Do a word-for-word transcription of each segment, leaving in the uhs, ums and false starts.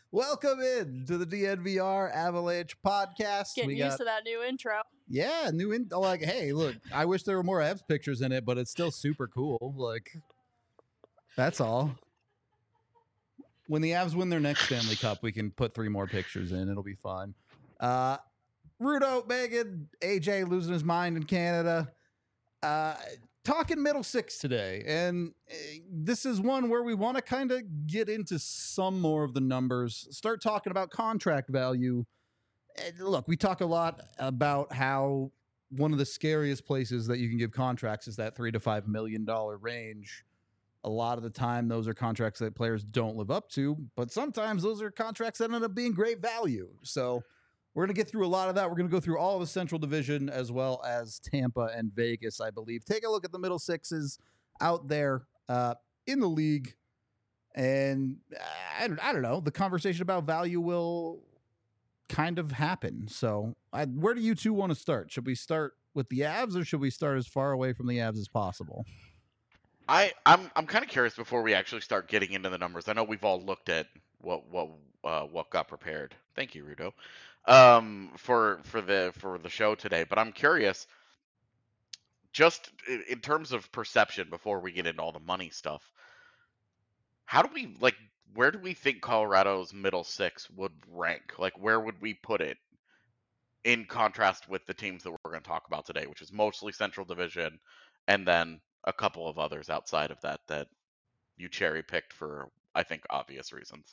Welcome in to the D N V R Avalanche podcast. Getting we used got, to that new intro. Yeah, new in like, hey, look, I wish there were more Avs pictures in it, but it's still super cool. Like, that's all. When the Avs win their next Stanley Cup, we can put three more pictures in. It'll be fun. Uh, Rudo, Megan, A J losing his mind in Canada. Uh, talking middle six today. And uh, this is one where we want to kind of get into some more of the numbers, start talking about contract value. And look, we talk a lot about how one of the scariest places that you can give contracts is that three to five million dollar range. A lot of the time, those are contracts that players don't live up to, but sometimes those are contracts that end up being great value. So we're going to get through a lot of that. We're going to go through all of the Central Division as well as Tampa and Vegas, I believe. Take a look at the middle sixes out there uh, in the league. And I, I don't know, the conversation about value will kind of happen. So I, where do you two want to start? Should we start with the Avs or should we start as far away from the Avs as possible? I, I'm I'm kind of curious before we actually start getting into the numbers. I know we've all looked at what what uh, what got prepared. Thank you, Rudo, um, for for the for the show today. But I'm curious, just in, in terms of perception, before we get into all the money stuff. How do we like? Where do we think Colorado's middle six would rank? Like, where would we put it in contrast with the teams that we're going to talk about today, which is mostly Central Division, and then a couple of others outside of that that you cherry picked for, I think, obvious reasons.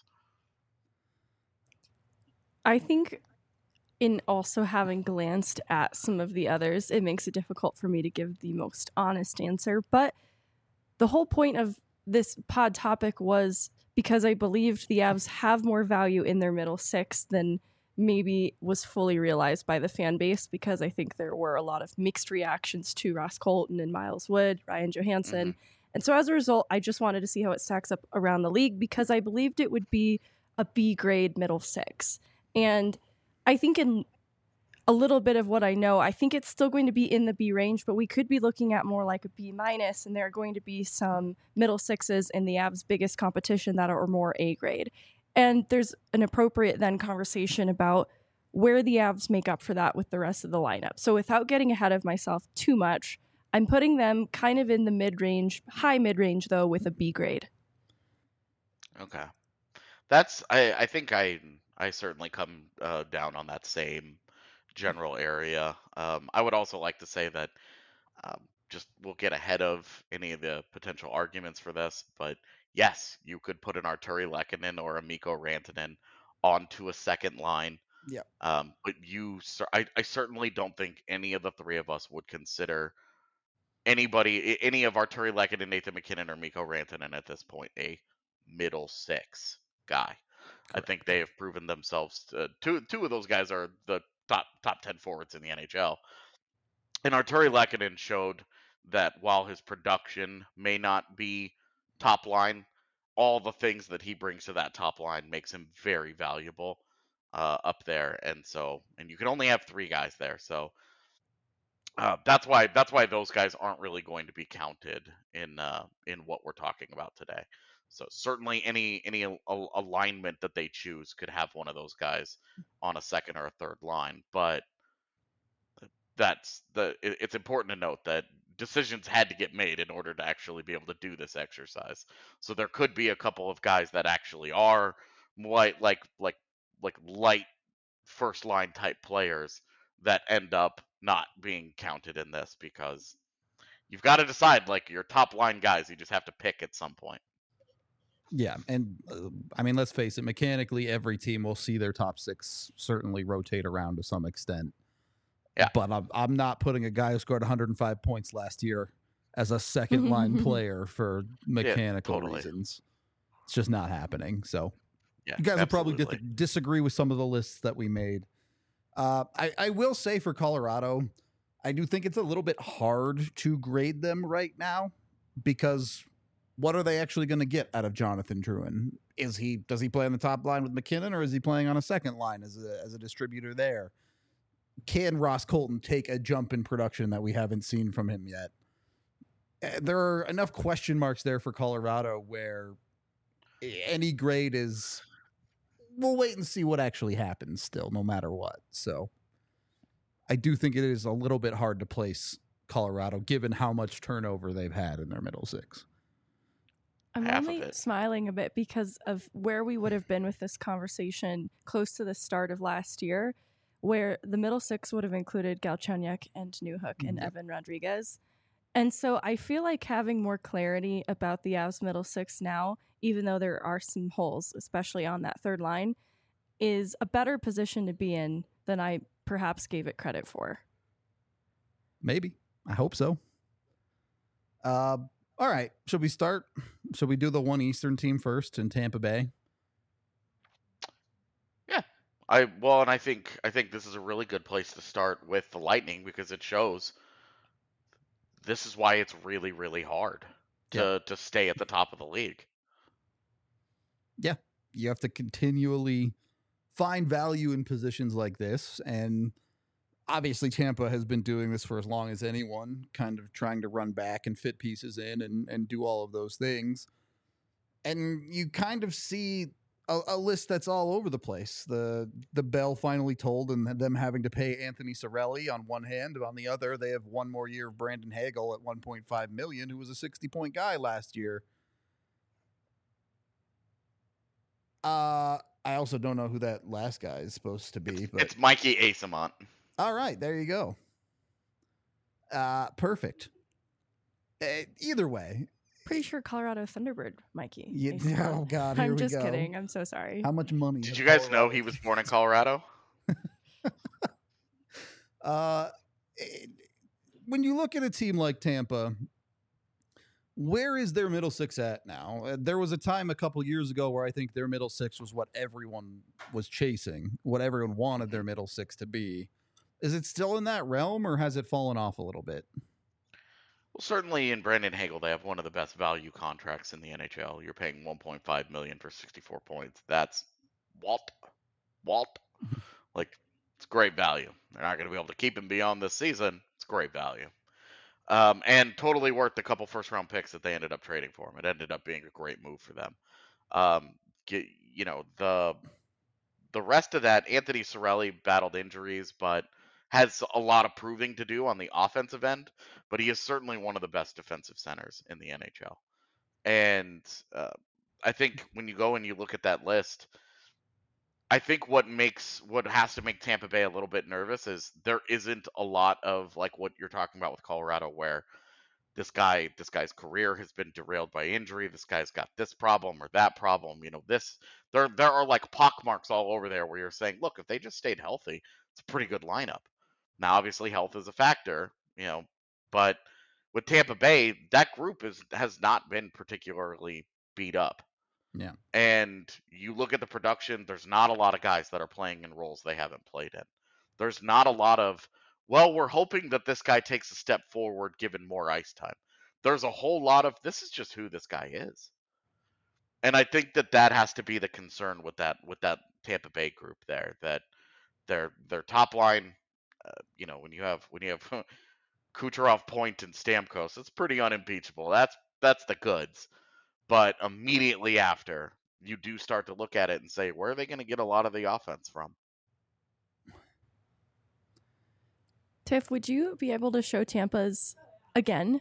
I think in also having glanced at some of the others, it makes it difficult for me to give the most honest answer. But the whole point of this pod topic was because I believed the Avs have more value in their middle six than maybe was fully realized by the fan base, because I think there were a lot of mixed reactions to Ross Colton and Miles Wood, Ryan Johansson. Mm-hmm. And so as a result, I just wanted to see how it stacks up around the league because I believed it would be a B grade middle six. And I think in a little bit of what I know, I think it's still going to be in the B range, but we could be looking at more like a B minus, and there are going to be some middle sixes in the Avs' biggest competition that are more A grade. And there's an appropriate then conversation about where the Avs make up for that with the rest of the lineup. So without getting ahead of myself too much, I'm putting them kind of in the mid-range, high mid-range though, with a B grade. Okay. That's, I, I think I, I certainly come uh, down on that same general area. Um, I would also like to say that um, just we'll get ahead of any of the potential arguments for this, but yes, you could put an Arturi Lehkonen or a Mikko Rantanen onto a second line. Yeah. Um, but you, I, I certainly don't think any of the three of us would consider anybody, any of Arturi Lehkonen, Nathan MacKinnon, or Mikko Rantanen at this point a middle six guy. Correct. I think they have proven themselves. To, two two of those guys are the top top ten forwards in the N H L. And Arturi Lehkonen showed that while his production may not be top line, all the things that he brings to that top line makes him very valuable uh, up there. And so, and you can only have three guys there, so uh, that's why that's why those guys aren't really going to be counted in uh, in what we're talking about today. So certainly any any al- alignment that they choose could have one of those guys on a second or a third line, but that's the it, it's important to note that decisions had to get made in order to actually be able to do this exercise. So there could be a couple of guys that actually are light like like like light first line type players that end up not being counted in this, because you've got to decide like your top line guys you just have to pick at some point. Yeah, and uh, I mean, let's face it, mechanically every team will see their top six certainly rotate around to some extent. Yeah. But I'm, I'm not putting a guy who scored one hundred five points last year as a second line player for mechanical yeah, totally. reasons. It's just not happening. So yeah, you guys absolutely. will probably dis- disagree with some of the lists that we made. Uh, I, I will say for Colorado, I do think it's a little bit hard to grade them right now, because what are they actually going to get out of Jonathan Drouin? Is he does he play on the top line with MacKinnon, or is he playing on a second line as a, as a distributor there? Can Ross Colton take a jump in production that we haven't seen from him yet? There are enough question marks there for Colorado where any grade is we'll wait and see what actually happens still, no matter what. So I do think it is a little bit hard to place Colorado, given how much turnover they've had in their middle six. I'm Half of only it. smiling a bit because of where we would have been with this conversation close to the start of last year, where the middle six would have included Galchenyuk and Newhook and Yep. Evan Rodriguez. And so I feel like having more clarity about the Avs middle six now, even though there are some holes, especially on that third line, is a better position to be in than I perhaps gave it credit for. Maybe. I hope so. Uh, all right. Should we start? Should we do the one Eastern team first in Tampa Bay? Yeah. I well, and I think I think this is a really good place to start with the Lightning because it shows this is why it's really, really hard to to stay at the top of the league. Yeah. You have to continually find value in positions like this. And obviously Tampa has been doing this for as long as anyone, kind of trying to run back and fit pieces in and, and do all of those things. And you kind of see a, a list that's all over the place. The the bell finally told and them having to pay Anthony Cirelli on one hand, but on the other, they have one more year of Brandon Hagel at one point five million dollars, who was a sixty point guy last year. Uh, I also don't know who that last guy is supposed to be. But It's Mikey Asamont. all right, there you go. Uh, perfect. Uh, either way, Pretty sure Colorado Thunderbird, Mikey. you, Mason. oh god, here I'm we just go. kidding. I'm so sorry. How much money? Did has you guys know Colorado- he was born in Colorado? Uh, it- when you look at a team like Tampa, where is their middle six at now? Uh, there was a time a couple years ago where I think their middle six was what everyone was chasing, what everyone wanted their middle six to be. Is it still in that realm, or has it fallen off a little bit? Well, certainly in Brandon Hagel, they have one of the best value contracts in the N H L. You're paying one point five million dollars for sixty-four points. That's Walt. Walt. Like, it's great value. They're not going to be able to keep him beyond this season. It's great value. Um, and totally worth the couple first round picks that they ended up trading for him. It ended up being a great move for them. Um, get, you know, the the rest of that, Anthony Cirelli battled injuries, but has a lot of proving to do on the offensive end. But he is certainly one of the best defensive centers in the N H L. And uh, I think when you go and you look at that list, I think what makes what has to make Tampa Bay a little bit nervous is there isn't a lot of like what you're talking about with Colorado, where this guy, this guy's career has been derailed by injury. This guy's got this problem or that problem. You know, this there there are like pockmarks all over there where you're saying, look, if they just stayed healthy, it's a pretty good lineup. Now, obviously, health is a factor, you know, but with Tampa Bay, that group is has not been particularly beat up. Yeah. And you look at the production, there's not a lot of guys that are playing in roles they haven't played in. There's not a lot of, well, we're hoping that this guy takes a step forward given more ice time. There's a whole lot of, this is just who this guy is. And I think that that has to be the concern with that with that Tampa Bay group there, that their their top line, uh, you know, when you have when you have Kucherov, Point, and Stamkos, it's pretty unimpeachable. That's that's the goods. But immediately after, you do start to look at it and say, where are they going to get a lot of the offense from? Tiff, would you be able to show Tampa's again?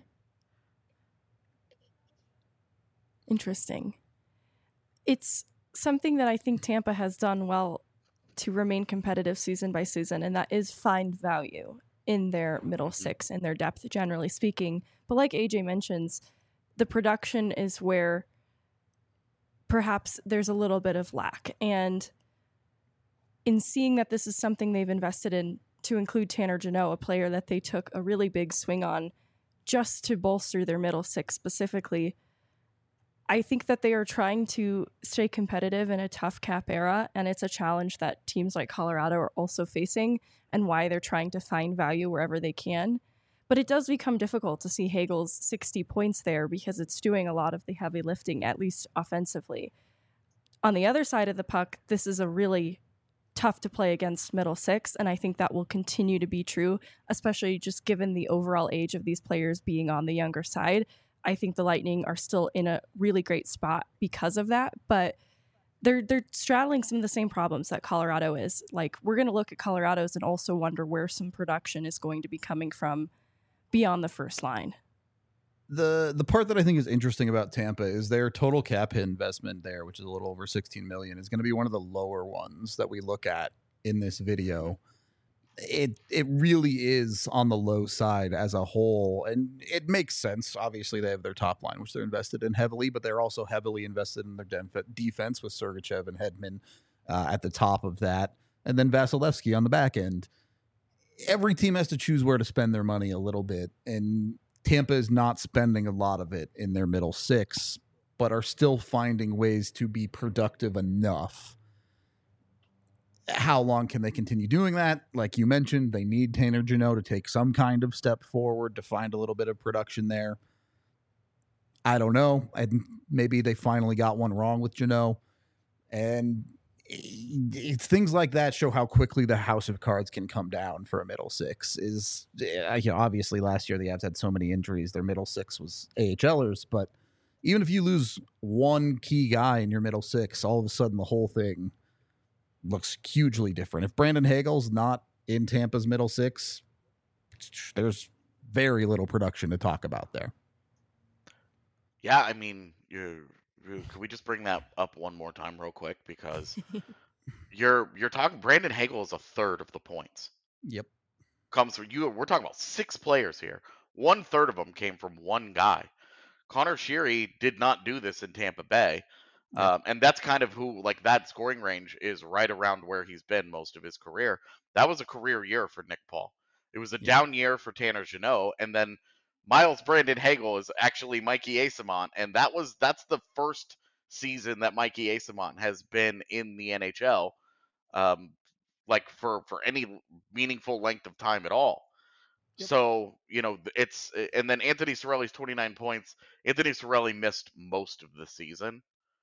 Interesting. It's something that I think Tampa has done well to remain competitive season by season, and that is find value in their middle six and their depth, generally speaking. But like A J mentions, the production is where perhaps there's a little bit of lack. And in seeing that this is something they've invested in, to include Tanner Jeannot, a player that they took a really big swing on just to bolster their middle six specifically, I think that they are trying to stay competitive in a tough cap era, and it's a challenge that teams like Colorado are also facing, and why they're trying to find value wherever they can. But it does become difficult to see Hagel's sixty points there because it's doing a lot of the heavy lifting, at least offensively. On the other side of the puck, this is a really tough to play against middle six, and I think that will continue to be true, especially just given the overall age of these players being on the younger side. I think the Lightning are still in a really great spot because of that, but they're they're straddling some of the same problems that Colorado is. Like, we're going to look at Colorado's and also wonder where some production is going to be coming from beyond the first line. The the part that I think is interesting about Tampa is their total cap hit investment there, which is a little over sixteen million, is going to be one of the lower ones that we look at in this video. It it really is on the low side as a whole, and it makes sense. Obviously, they have their top line, which they're invested in heavily, but they're also heavily invested in their def- defense with Sergachev and Hedman uh, at the top of that, and then Vasilevsky on the back end. Every team has to choose where to spend their money a little bit, and Tampa is not spending a lot of it in their middle six, but are still finding ways to be productive enough. How long can they continue doing that? Like you mentioned, they need Tanner Jeannot to take some kind of step forward to find a little bit of production there. I don't know. And maybe they finally got one wrong with Jeannot. And it's things like that show how quickly the house of cards can come down for a middle six. Is you know, obviously last year the Avs had so many injuries. Their middle six was AHLers, but even if you lose one key guy in your middle six, all of a sudden the whole thing looks hugely different. If Brandon Hagel's not in Tampa's middle six, there's very little production to talk about there. Yeah, I mean, you could we just bring that up one more time real quick, because you're you're talking Brandon Hagel is a third of the points. Yep. Comes from you. We're talking about six players here. One third of them came from one guy. Connor Sheary did not do this in Tampa Bay. Yep. Um, and that's kind of who, like, that scoring range is right around where he's been most of his career. That was a career year for Nick Paul. It was a yep. down year for Tanner Jeannot, and then Miles Brandon Hagel is actually Mikey Eyssimont, and that was that's the first season that Mikey Eyssimont has been in the N H L, um, like for for any meaningful length of time at all. Yep. So you know it's and then Anthony Cirelli's twenty-nine points. Anthony Cirelli missed most of the season.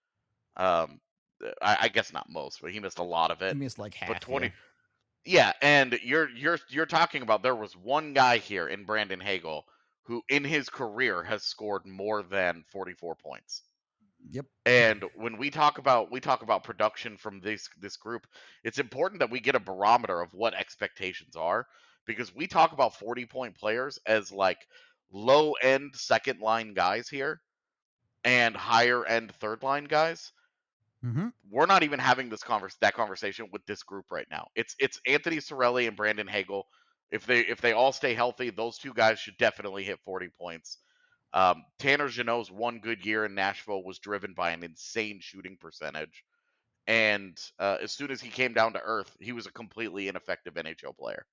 Um, I, I guess not most, but he missed a lot of it. He missed like half. But twenty. Yeah. Yeah, and you're you're you're talking about there was one guy here in Brandon Hagel who in his career has scored more than forty-four points. Yep. And when we talk about we talk about production from this this group, it's important that we get a barometer of what expectations are, because we talk about forty-point players as like low-end second-line guys here and higher-end third-line guys. Mm-hmm. We're not even having this converse that conversation with this group right now. It's it's Anthony Cirelli and Brandon Hagel. If they if they all stay healthy, those two guys should definitely hit forty points. Um, Tanner Jeannot's one good year in Nashville was driven by an insane shooting percentage, and uh, as soon as he came down to earth, he was a completely ineffective N H L player.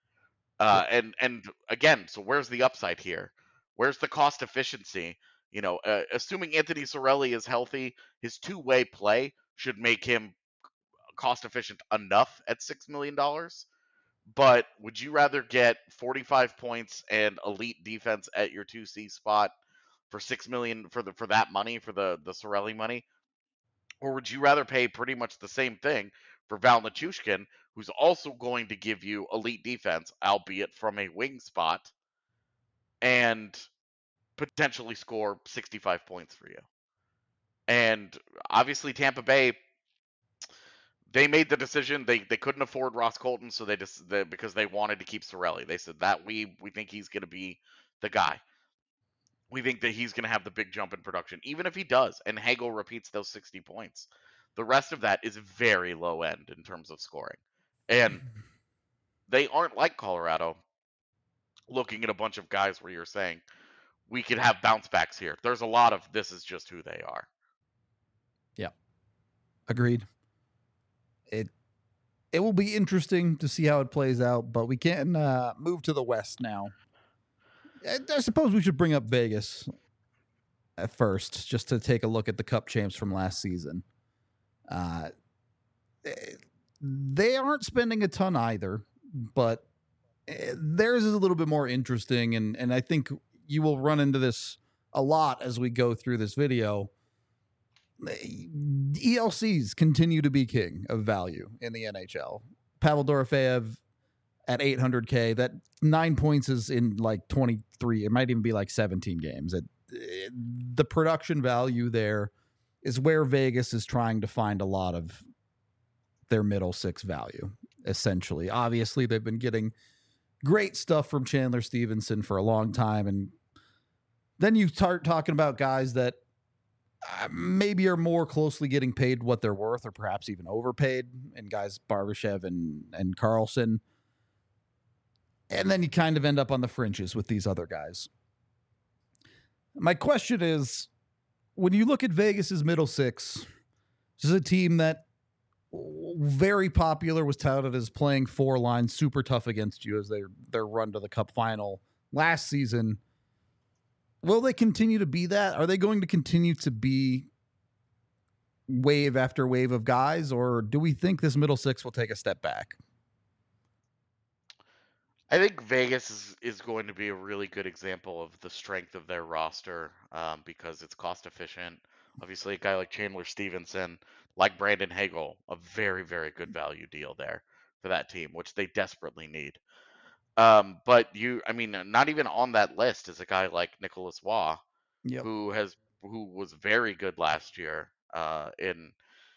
Uh, yep. And and again, so where's the upside here? Where's the cost efficiency? You know, uh, assuming Anthony Cirelli is healthy, his two-way play should make him cost efficient enough at six million dollars. But would you rather get forty-five points and elite defense at your two C spot for six million dollars for the for that money, for the the Cirelli money, or would you rather pay pretty much the same thing for Val Nichushkin, who's also going to give you elite defense, albeit from a wing spot, and potentially score sixty-five points for you? And obviously Tampa Bay, they made the decision. They they couldn't afford Ross Colton, so they just they, because they wanted to keep Cirelli. They said that we we think he's going to be the guy. We think that he's going to have the big jump in production, even if he does, and Hagel repeats those sixty points. The rest of that is very low end in terms of scoring, and they aren't like Colorado, looking at a bunch of guys where you're saying we could have bounce backs here. There's a lot of this is just who they are. Yeah, agreed. It it will be interesting to see how it plays out, but we can uh, move to the West now. I, I suppose we should bring up Vegas at first, just to take a look at the Cup champs from last season. Uh, they aren't spending a ton either, but theirs is a little bit more interesting, and, and I think you will run into this a lot as we go through this video. E L Cs continue to be king of value in the N H L. Pavel Dorofeyev at eight hundred K, that nine points is in like twenty-three. It might even be like seventeen games. It, it, the production value there is where Vegas is trying to find a lot of their middle six value, essentially. Obviously, they've been getting great stuff from Chandler Stevenson for a long time. And then you start talking about guys that uh, maybe are more closely getting paid what they're worth, or perhaps even overpaid, and guys Barbashev and, and Carlson. And then you kind of end up on the fringes with these other guys. My question is, when you look at Vegas's middle six, this is a team that very popular, was touted as playing four lines, super tough against you as they their run to the Cup final last season. Will they continue to be that? Are they going to continue to be wave after wave of guys, or do we think this middle six will take a step back? I think Vegas is, is going to be a really good example of the strength of their roster um, because it's cost efficient. Obviously, a guy like Chandler Stevenson, like Brandon Hagel, a very, very good value deal there for that team, which they desperately need. Um, but you, I mean, not even on that list is a guy like Nicholas Waugh, Yep. who has who was very good last year. Uh, in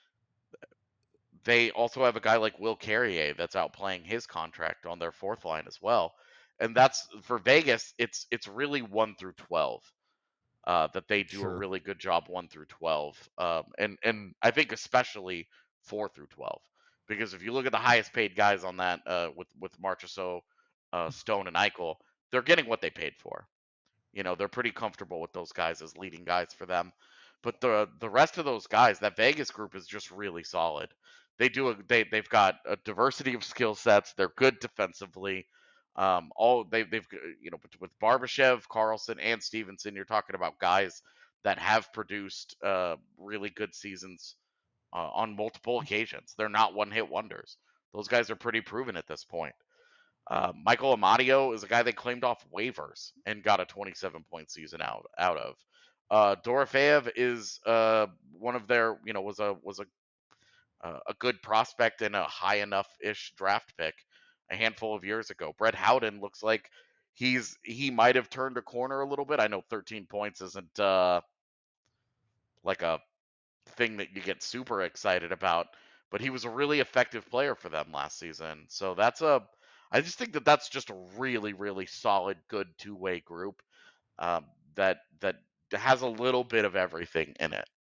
they also have a guy like Will Carrier that's outplaying his contract on their fourth line as well, and that's for Vegas. It's it's really one through twelve. Uh, that they do Sure. a really good job one through twelve, um, and and I think especially four through twelve, because if you look at the highest paid guys on that uh, with with Marchessault, uh, Stone, and Eichel, they're getting what they paid for. You know, they're pretty comfortable with those guys as leading guys for them. But the the rest of those guys, that Vegas group is just really solid. They do a, they they've got a diversity of skill sets. They're good defensively. Um, all they they've you know with Barbashev, Carlson, and Stevenson, you're talking about guys that have produced uh, really good seasons uh, on multiple occasions. They're not one hit wonders. Those guys are pretty proven at this point. Uh, Michael Amadio is a guy they claimed off waivers and got a twenty-seven point season out out of. Uh, Dorofeyev is uh, one of their you know was a was a uh, a good prospect and a high enough ish draft pick a handful of years ago. Brett Howden looks like he's he might have turned a corner a little bit. I know thirteen points isn't uh, like a thing that you get super excited about, but he was a really effective player for them last season. So that's a I just think that that's just a really really solid good two-way group um, that that has a little bit of everything in it.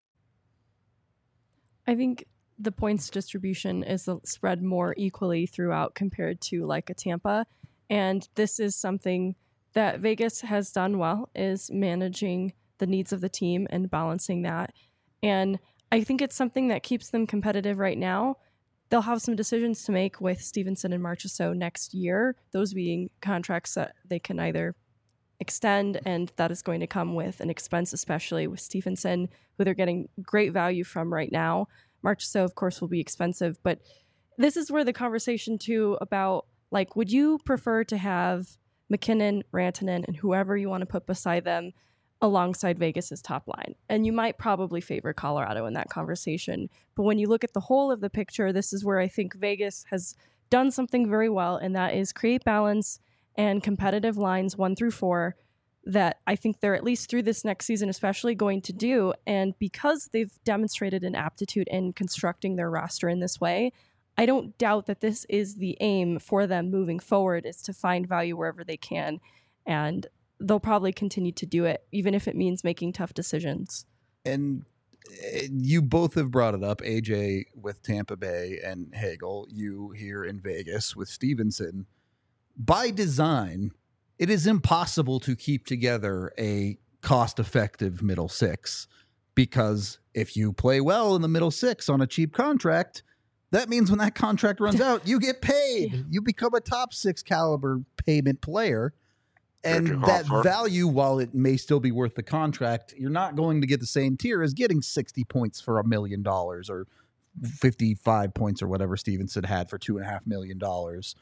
I think the points distribution is spread more equally throughout compared to like a Tampa. And this is something that Vegas has done well, is managing the needs of the team and balancing that. And I think it's something that keeps them competitive right now. They'll have some decisions to make with Stevenson and Marchessault next year, those being contracts that they can either extend, and that is going to come with an expense, especially with Stevenson, who they're getting great value from right now. Marchessault, of course, will be expensive, but this is where the conversation too about, like, would you prefer to have MacKinnon, Rantanen, and whoever you want to put beside them alongside Vegas's top line? And you might probably favor Colorado in that conversation. But when you look at the whole of the picture, this is where I think Vegas has done something very well, and that is create balance and competitive lines one through four that I think they're, at least through this next season especially, going to do. And because they've demonstrated an aptitude in constructing their roster in this way, I don't doubt that this is the aim for them moving forward, is to find value wherever they can. And they'll probably continue to do it, even if it means making tough decisions. And you both have brought it up, A J with Tampa Bay and Hagel, you here in Vegas with Stevenson. By design, it is impossible to keep together a cost-effective middle six, because if you play well in the middle six on a cheap contract, that means when that contract runs out, you get paid. Yeah. You become a top six caliber payment player. And that value, while it may still be worth the contract, you're not going to get the same tier as getting sixty points for a million dollars or fifty-five points or whatever Stevenson had for two and a half million dollars.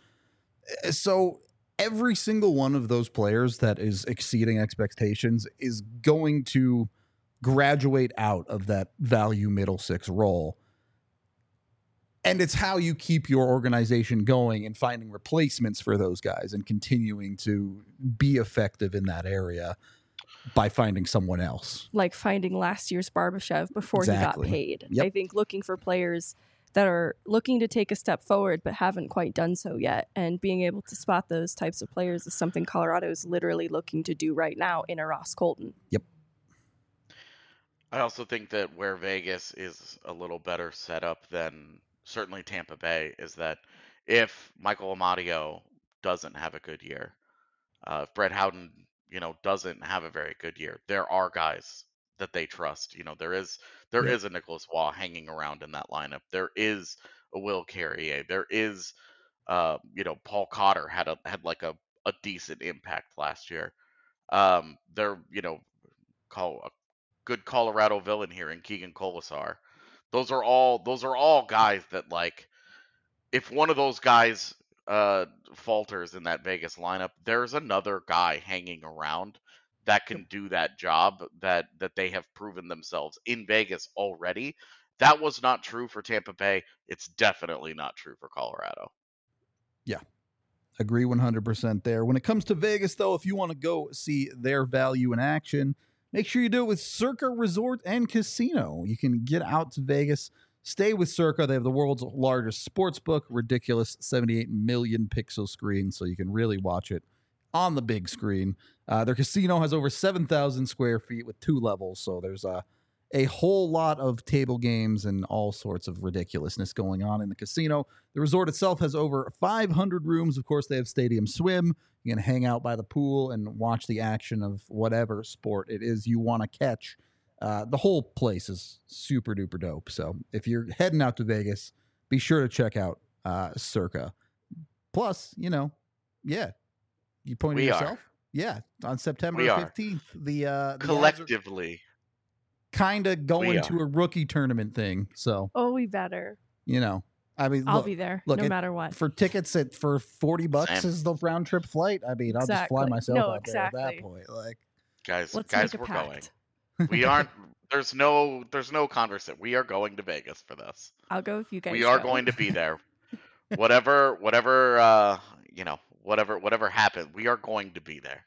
So every single one of those players that is exceeding expectations is going to graduate out of that value middle six role. And it's how you keep your organization going and finding replacements for those guys and continuing to be effective in that area. by finding someone else. Like finding last year's Barbashev before Exactly. he got paid. Yep. I think looking for players that are looking to take a step forward but haven't quite done so yet, and being able to spot those types of players is something Colorado is literally looking to do right now in a Ross Colton. Yep. I also think that where Vegas is a little better set up than certainly Tampa Bay is that if Michael Amadio doesn't have a good year, uh, if Brett Howden, you know, doesn't have a very good year, there are guys that they trust. You know, there is there Yep. is a Nicholas Waugh hanging around in that lineup. There is a Will Carrier. There is, uh, you know, Paul Cotter had a had like a, a decent impact last year. Um, they're you know, call a good Colorado villain here in Keegan Colasar. Those are all those are all guys that, like, if one of those guys uh falters in that Vegas lineup, there's another guy hanging around that can do that job that that they have proven themselves in Vegas already. That was not true for Tampa Bay. It's definitely not true for Colorado. Agree one hundred percent there. When it comes to Vegas, though, if you want to go see their value in action, make sure you do it with Circa Resort and Casino. You can get out to Vegas, stay with Circa. They have the world's largest sports book, ridiculous seventy-eight million pixel screen, so you can really watch it on the big screen. Uh, their casino has over seven thousand square feet with two levels, so there's a, a whole lot of table games and all sorts of ridiculousness going on in the casino. The resort itself has over five hundred rooms. Of course, they have stadium swim. You can hang out by the pool and watch the action of whatever sport it is you want to catch. Uh, the whole place is super duper dope. So if you're heading out to Vegas, be sure to check out uh, Circa. Plus, you know, yeah, you pointed We yourself. are. Yeah, on September We are. fifteenth, the uh, the Avs are Collectively, kind of going We to a rookie tournament thing. So, Oh, we better. you know, I mean, I'll look, be there look, no it- matter what. for tickets at for forty bucks Same. is the round trip flight. I mean, I'll just fly Exactly. myself No, out there at that exactly. point. Like, guys, Let's guys, make a we're pact. going. We aren't. There's no. There's no conversation. We are going to Vegas for this. I'll go if you guys We are go. going to be there. Whatever. Whatever. Uh, you know. Whatever. Whatever happened, we are going to be there.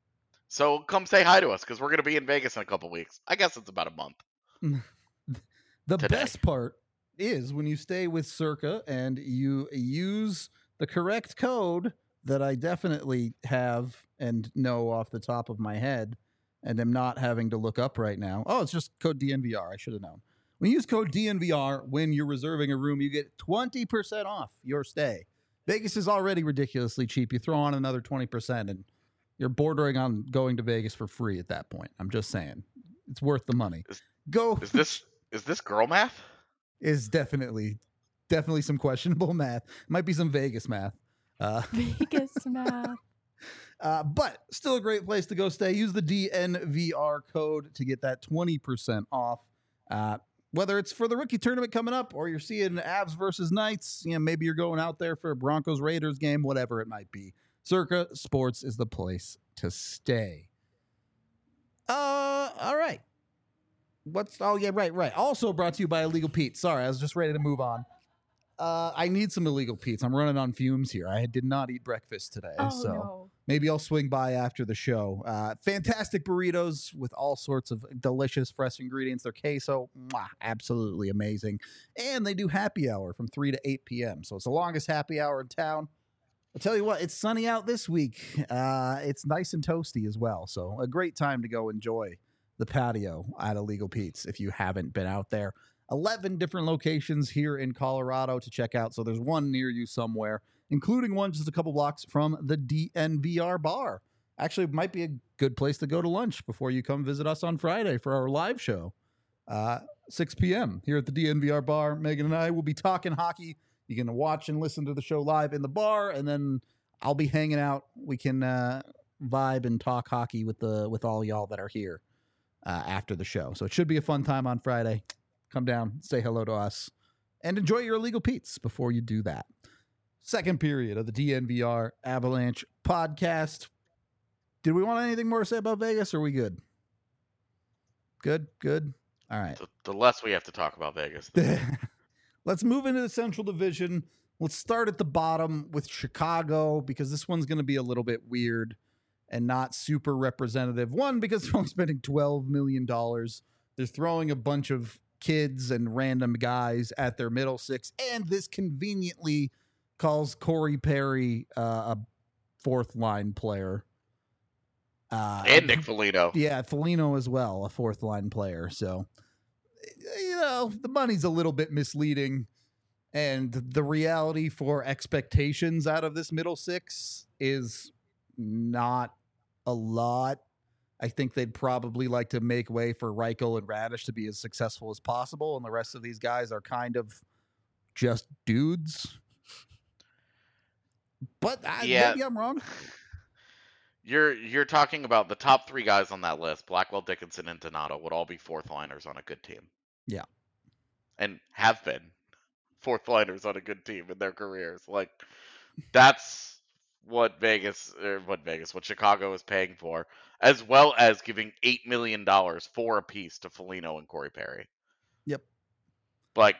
So come say hi to us because we're going to be in Vegas in a couple weeks. I guess it's about a month. the Today. best part is when you stay with Circa and you use the correct code that I definitely have and know off the top of my head and am not having to look up right now. Oh, it's just code D N V R. I should have known. When you use code D N V R when you're reserving a room, you get twenty percent off your stay. Vegas is already ridiculously cheap. You throw on another twenty percent and you're bordering on going to Vegas for free at that point. I'm just saying. It's worth the money. Is- Go Is this is this girl math? is definitely definitely some questionable math. Might be some Vegas math. Uh, Vegas math. uh, but still a great place to go stay. Use the D N V R code to get that twenty percent off. Uh, whether it's for the rookie tournament coming up or you're seeing Avs versus Knights, you know, maybe you're going out there for a Broncos Raiders game, whatever it might be. Circa Sports is the place to stay. Uh, all right. What's oh yeah, right, right. Also brought to you by Illegal Pete. Sorry, I was just ready to move on. Uh, I need some Illegal Pete's. I'm running on fumes here. I did not eat breakfast today, Oh so no. maybe I'll swing by after the show. Uh, fantastic burritos with all sorts of delicious fresh ingredients. Their queso, mwah, absolutely amazing. And they do happy hour from three to eight p.m. So it's the longest happy hour in town. I'll tell you what, it's sunny out this week. Uh, it's nice and toasty as well. So a great time to go enjoy the patio at Illegal Pete's if you haven't been out there. eleven different locations here in Colorado to check out. So there's one near you somewhere, including one just a couple blocks from the D N V R bar. Actually, it might be a good place to go to lunch before you come visit us on Friday for our live show. Uh, six p.m. here at the D N V R bar. Megan and I will be talking hockey. You can watch and listen to the show live in the bar, and then I'll be hanging out. We can uh, vibe and talk hockey with the with all y'all that are here uh, after the show. So it should be a fun time on Friday. Come down, say hello to us, and enjoy your Illegal Pete's before you do that. Second period of the D N V R Avalanche podcast. Did we want anything more to say about Vegas, or are we good? Good, good. All right. The, the less we have to talk about Vegas. the better. Let's move into the Central Division. Let's start at the bottom with Chicago because this one's going to be a little bit weird. and not super representative. One, because they're only spending twelve million dollars. They're throwing a bunch of kids and random guys at their middle six, and this conveniently calls Corey Perry uh, a fourth line player. Uh, and Nick Foligno. Yeah, Foligno as well, a fourth line player. So, you know, the money's a little bit misleading. And the reality for expectations out of this middle six is not a lot. I think they'd probably like to make way for Reichel and Radish to be as successful as possible. And the rest of these guys are kind of just dudes. But I, Yeah. maybe I'm wrong. You're you're talking about the top three guys on that list, Blackwell, Dickinson, and Donato, would all be fourth liners on a good team. Yeah. And have been fourth liners on a good team in their careers. Like, that's what Vegas, or what Vegas, what Chicago is paying for, as well as giving eight million dollars for a piece to Foligno and Corey Perry. Yep. Like,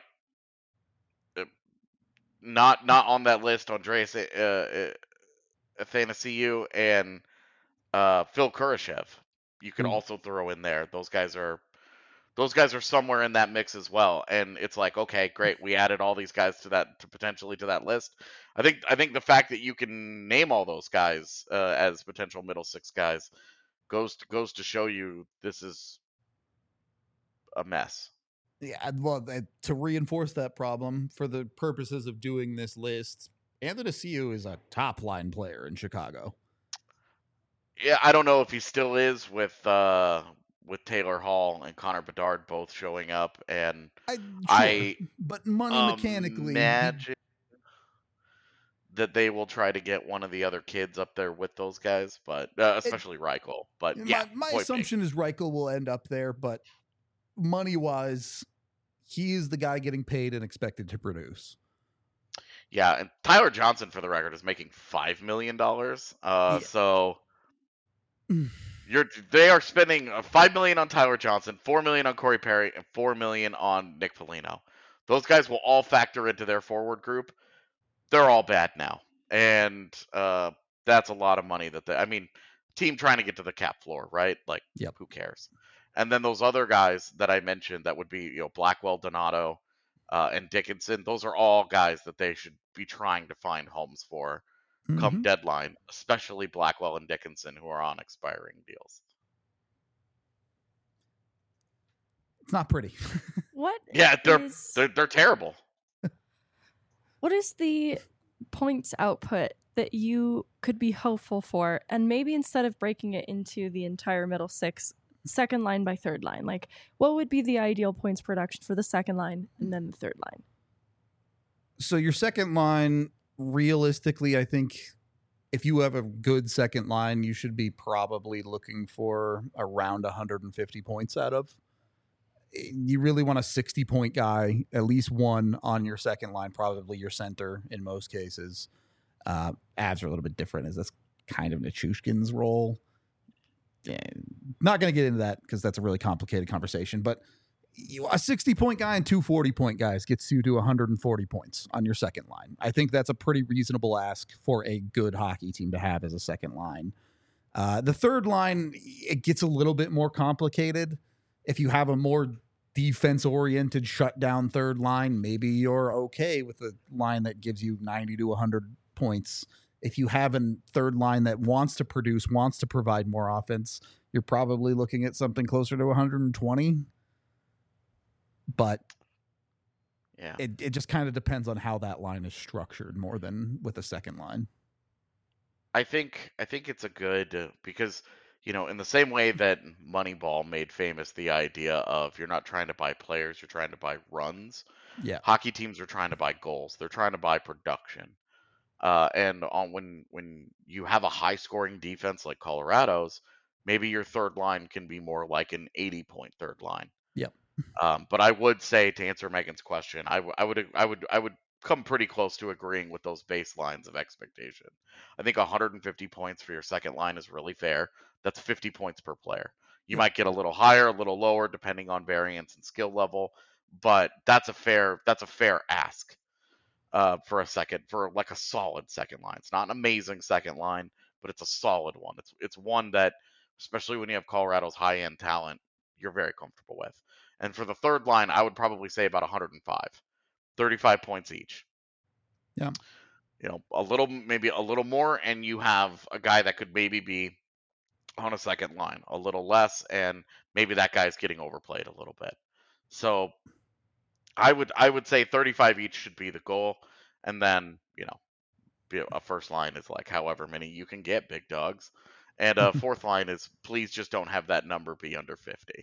not not on that list, Andreas uh, Athanasiou and uh, Phil Kurashev. You could Mm. also throw in there. Those guys are those guys are somewhere in that mix as well. And it's like, okay, great, we added all these guys to that to potentially to that list. I think I think the fact that you can name all those guys uh, as potential middle six guys goes to, goes to show you this is a mess. Yeah, well, uh, to reinforce that problem, for the purposes of doing this list, Athanasiou is a top line player in Chicago. Yeah, I don't know if he still is with uh, with Taylor Hall and Connor Bedard both showing up, and I, sure, I but money mechanically, imagine that they will try to get one of the other kids up there with those guys, but uh, especially it, Reichel. But my, yeah, my assumption being. is Reichel will end up there, but money wise, he is the guy getting paid and expected to produce. Yeah, and Tyler Johnson, for the record, is making five million dollars. Uh, yeah. So you're they are spending five million on Tyler Johnson, four million on Corey Perry, and four million on Nick Foligno. Those guys will all factor into their forward group. They're all bad now, and uh, that's a lot of money. That they, I mean, team trying to get to the cap floor, right? Like, yep. Who cares? And then those other guys that I mentioned, that would be, you know, Blackwell, Donato, uh, and Dickinson. Those are all guys that they should be trying to find homes for mm-hmm. come deadline, especially Blackwell and Dickinson, who are on expiring deals. It's not pretty. What? Yeah, they're is... they're, they're terrible. What is the points output that you could be hopeful for? And maybe instead of breaking it into the entire middle six, second line by third line, like what would be the ideal points production for the second line and then the third line? So your second line, realistically, I think if you have a good second line, you should be probably looking for around one hundred fifty points out of. You really want a sixty point guy, at least one on your second line, probably your center in most cases. Uh, Avs are a little bit different, as that's kind of Nichushkin's role. Yeah, not going to get into that because that's a really complicated conversation, but you, a sixty point guy and two forty point guys gets you to one hundred forty points on your second line. I think that's a pretty reasonable ask for a good hockey team to have as a second line. Uh, the third line, it gets a little bit more complicated. If you have a more defense-oriented shutdown third line, maybe you're okay with a line that gives you ninety to one hundred points. If you have a third line that wants to produce, wants to provide more offense, you're probably looking at something closer to one hundred twenty. But yeah, it, it just kind of depends on how that line is structured more than with a second line. I think I think it's a good uh, because you know, in the same way that Moneyball made famous the idea of you're not trying to buy players, you're trying to buy runs. Yeah. Hockey teams are trying to buy goals. They're trying to buy production. Uh, and on when when you have a high scoring defense like Colorado's, maybe your third line can be more like an eighty point third line. Yep. Um, but I would say, to answer Megan's question, I, w- I would I would I would come pretty close to agreeing with those baselines of expectation. I think one hundred fifty points for your second line is really fair. That's fifty points per player. You yep. might get a little higher, a little lower, depending on variance and skill level, but that's a fair that's a fair ask uh, for a second for like a solid second line. It's not an amazing second line, but it's a solid one. It's it's one that, especially when you have Colorado's high end talent, you're very comfortable with. And for the third line, I would probably say about one hundred five, thirty-five points each. Yeah. You know, a little, maybe a little more, and you have a guy that could maybe be on a second line, a little less, and maybe that guy's getting overplayed a little bit. So I would I would say thirty-five each should be the goal, and then, you know, be a first line is like however many you can get, big dogs, and a fourth line is please just don't have that number be under fifty.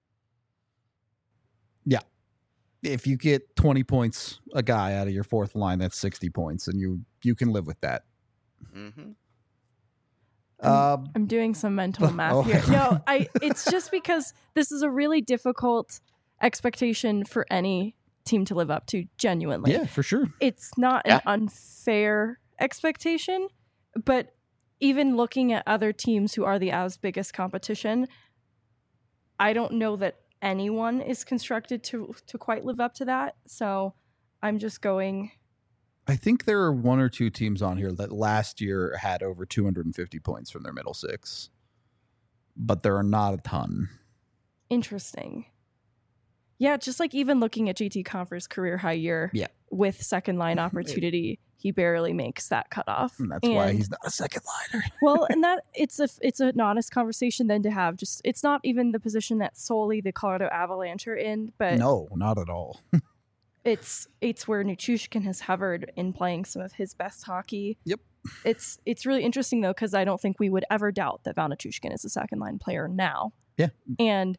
Yeah. If you get twenty points a guy out of your fourth line, that's sixty points, and you you can live with that. Mm-hmm. I'm, Um, I'm doing some mental math oh. here. No, I. It's just because this is a really difficult expectation for any team to live up to. Genuinely, yeah, for sure. it's not Yeah. an unfair expectation, but even looking at other teams who are the Avs' biggest competition, I don't know that anyone is constructed to to quite live up to that. So I'm just going. I think there are one or two teams on here that last year had over two hundred fifty points from their middle six, but there are not a ton. Interesting. Yeah, just like even looking at J T Compher's career high year Yeah. with second line opportunity, he barely makes that cutoff. And that's why And- he's not a second liner. well, and that it's a it's an honest conversation then to have. Just it's not even the position that solely the Colorado Avalanche are in, but No, not at all. it's it's where Nichushkin has hovered in playing some of his best hockey. Yep. It's it's really interesting though, because I don't think we would ever doubt that Val Nichushkin is a second line player now. Yeah. And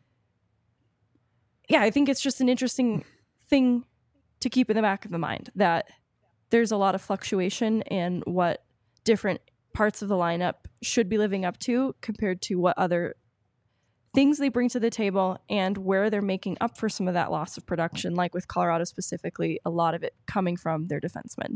yeah, I think it's just an interesting thing to keep in the back of the mind that there's a lot of fluctuation in what different parts of the lineup should be living up to compared to what other things they bring to the table and where they're making up for some of that loss of production, like with Colorado specifically, a lot of it coming from their defensemen.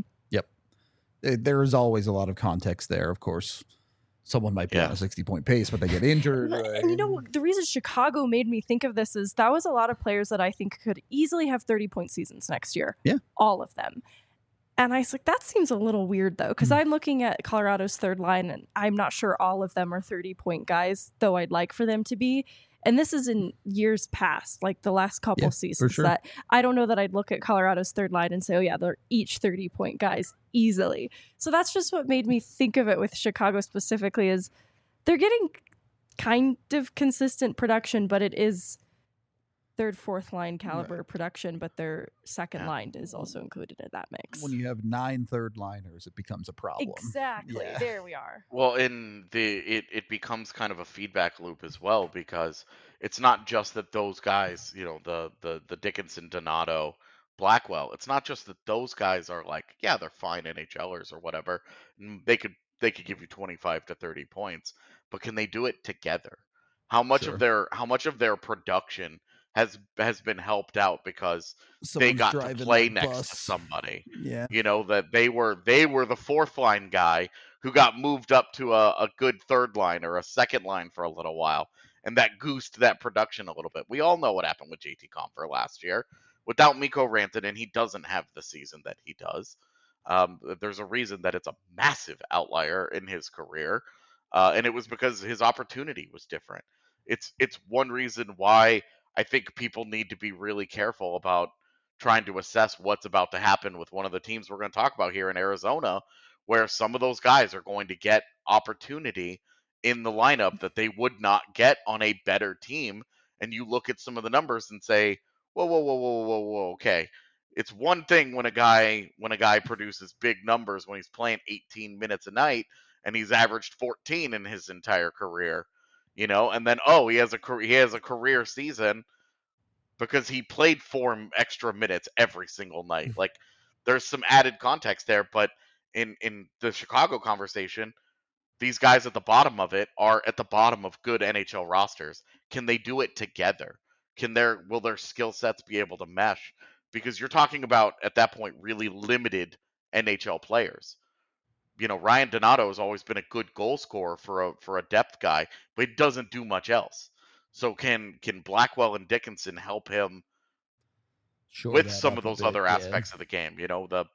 Uh, There is always a lot of context there, of course. Someone might be on Yeah. a sixty-point pace, but they get injured. And right? you know, the reason Chicago made me think of this is that was a lot of players that I think could easily have thirty-point seasons next year. Yeah. All of them. And I was like, that seems a little weird, though, because Mm. I'm looking at Colorado's third line, and I'm not sure all of them are thirty-point guys, though I'd like for them to be. And this is in years past, like the last couple Yeah, seasons, sure. that I don't know that I'd look at Colorado's third line and say, oh, yeah, they're each thirty-point guys easily. So that's just what made me think of it with Chicago specifically is they're getting kind of consistent production, but it is third, fourth line caliber production, but their second Yeah. line is also included in that mix. When you have nine third liners, it becomes a problem. Exactly. Yeah. There we are. Well, in the it, it becomes kind of a feedback loop as well because it's not just that those guys, you know, the the the Dickinson, Donato, Blackwell. It's not just that those guys are like, yeah, they're fine NHLers or whatever. and They could they could give you twenty-five to thirty points, but can they do it together? How much Sure. of their how much of their production has has been helped out because they Someone's got to driving play that next bus. to somebody? Yeah. You know, that they were they were the fourth line guy who got moved up to a, a good third line or a second line for a little while, and that goosed that production a little bit. We all know what happened with J T Compher last year. Without Mikko Rantanen, he doesn't have the season that he does. Um, there's a reason that it's a massive outlier in his career, uh, and it was because his opportunity was different. It's it's one reason why I think people need to be really careful about trying to assess what's about to happen with one of the teams we're going to talk about here in Arizona, where some of those guys are going to get opportunity in the lineup that they would not get on a better team. And you look at some of the numbers and say, whoa, whoa, whoa, whoa, whoa, whoa, okay. It's one thing when a guy when a guy produces big numbers when he's playing eighteen minutes a night and he's averaged fourteen in his entire career, you know, and then oh, he has a he has a career season because he played four extra minutes every single night. Like there's some added context there, but in in the Chicago conversation, these guys at the bottom of it are at the bottom of good N H L rosters. Can they do it together? Can their will their skill sets be able to mesh? Because you're talking about at that point really limited N H L players. You know, Ryan Donato has always been a good goal scorer for a for a depth guy, but he doesn't do much else. So can can Blackwell and Dickinson help him Shore with that some up of a those bit, other yeah. aspects of the game? You know, the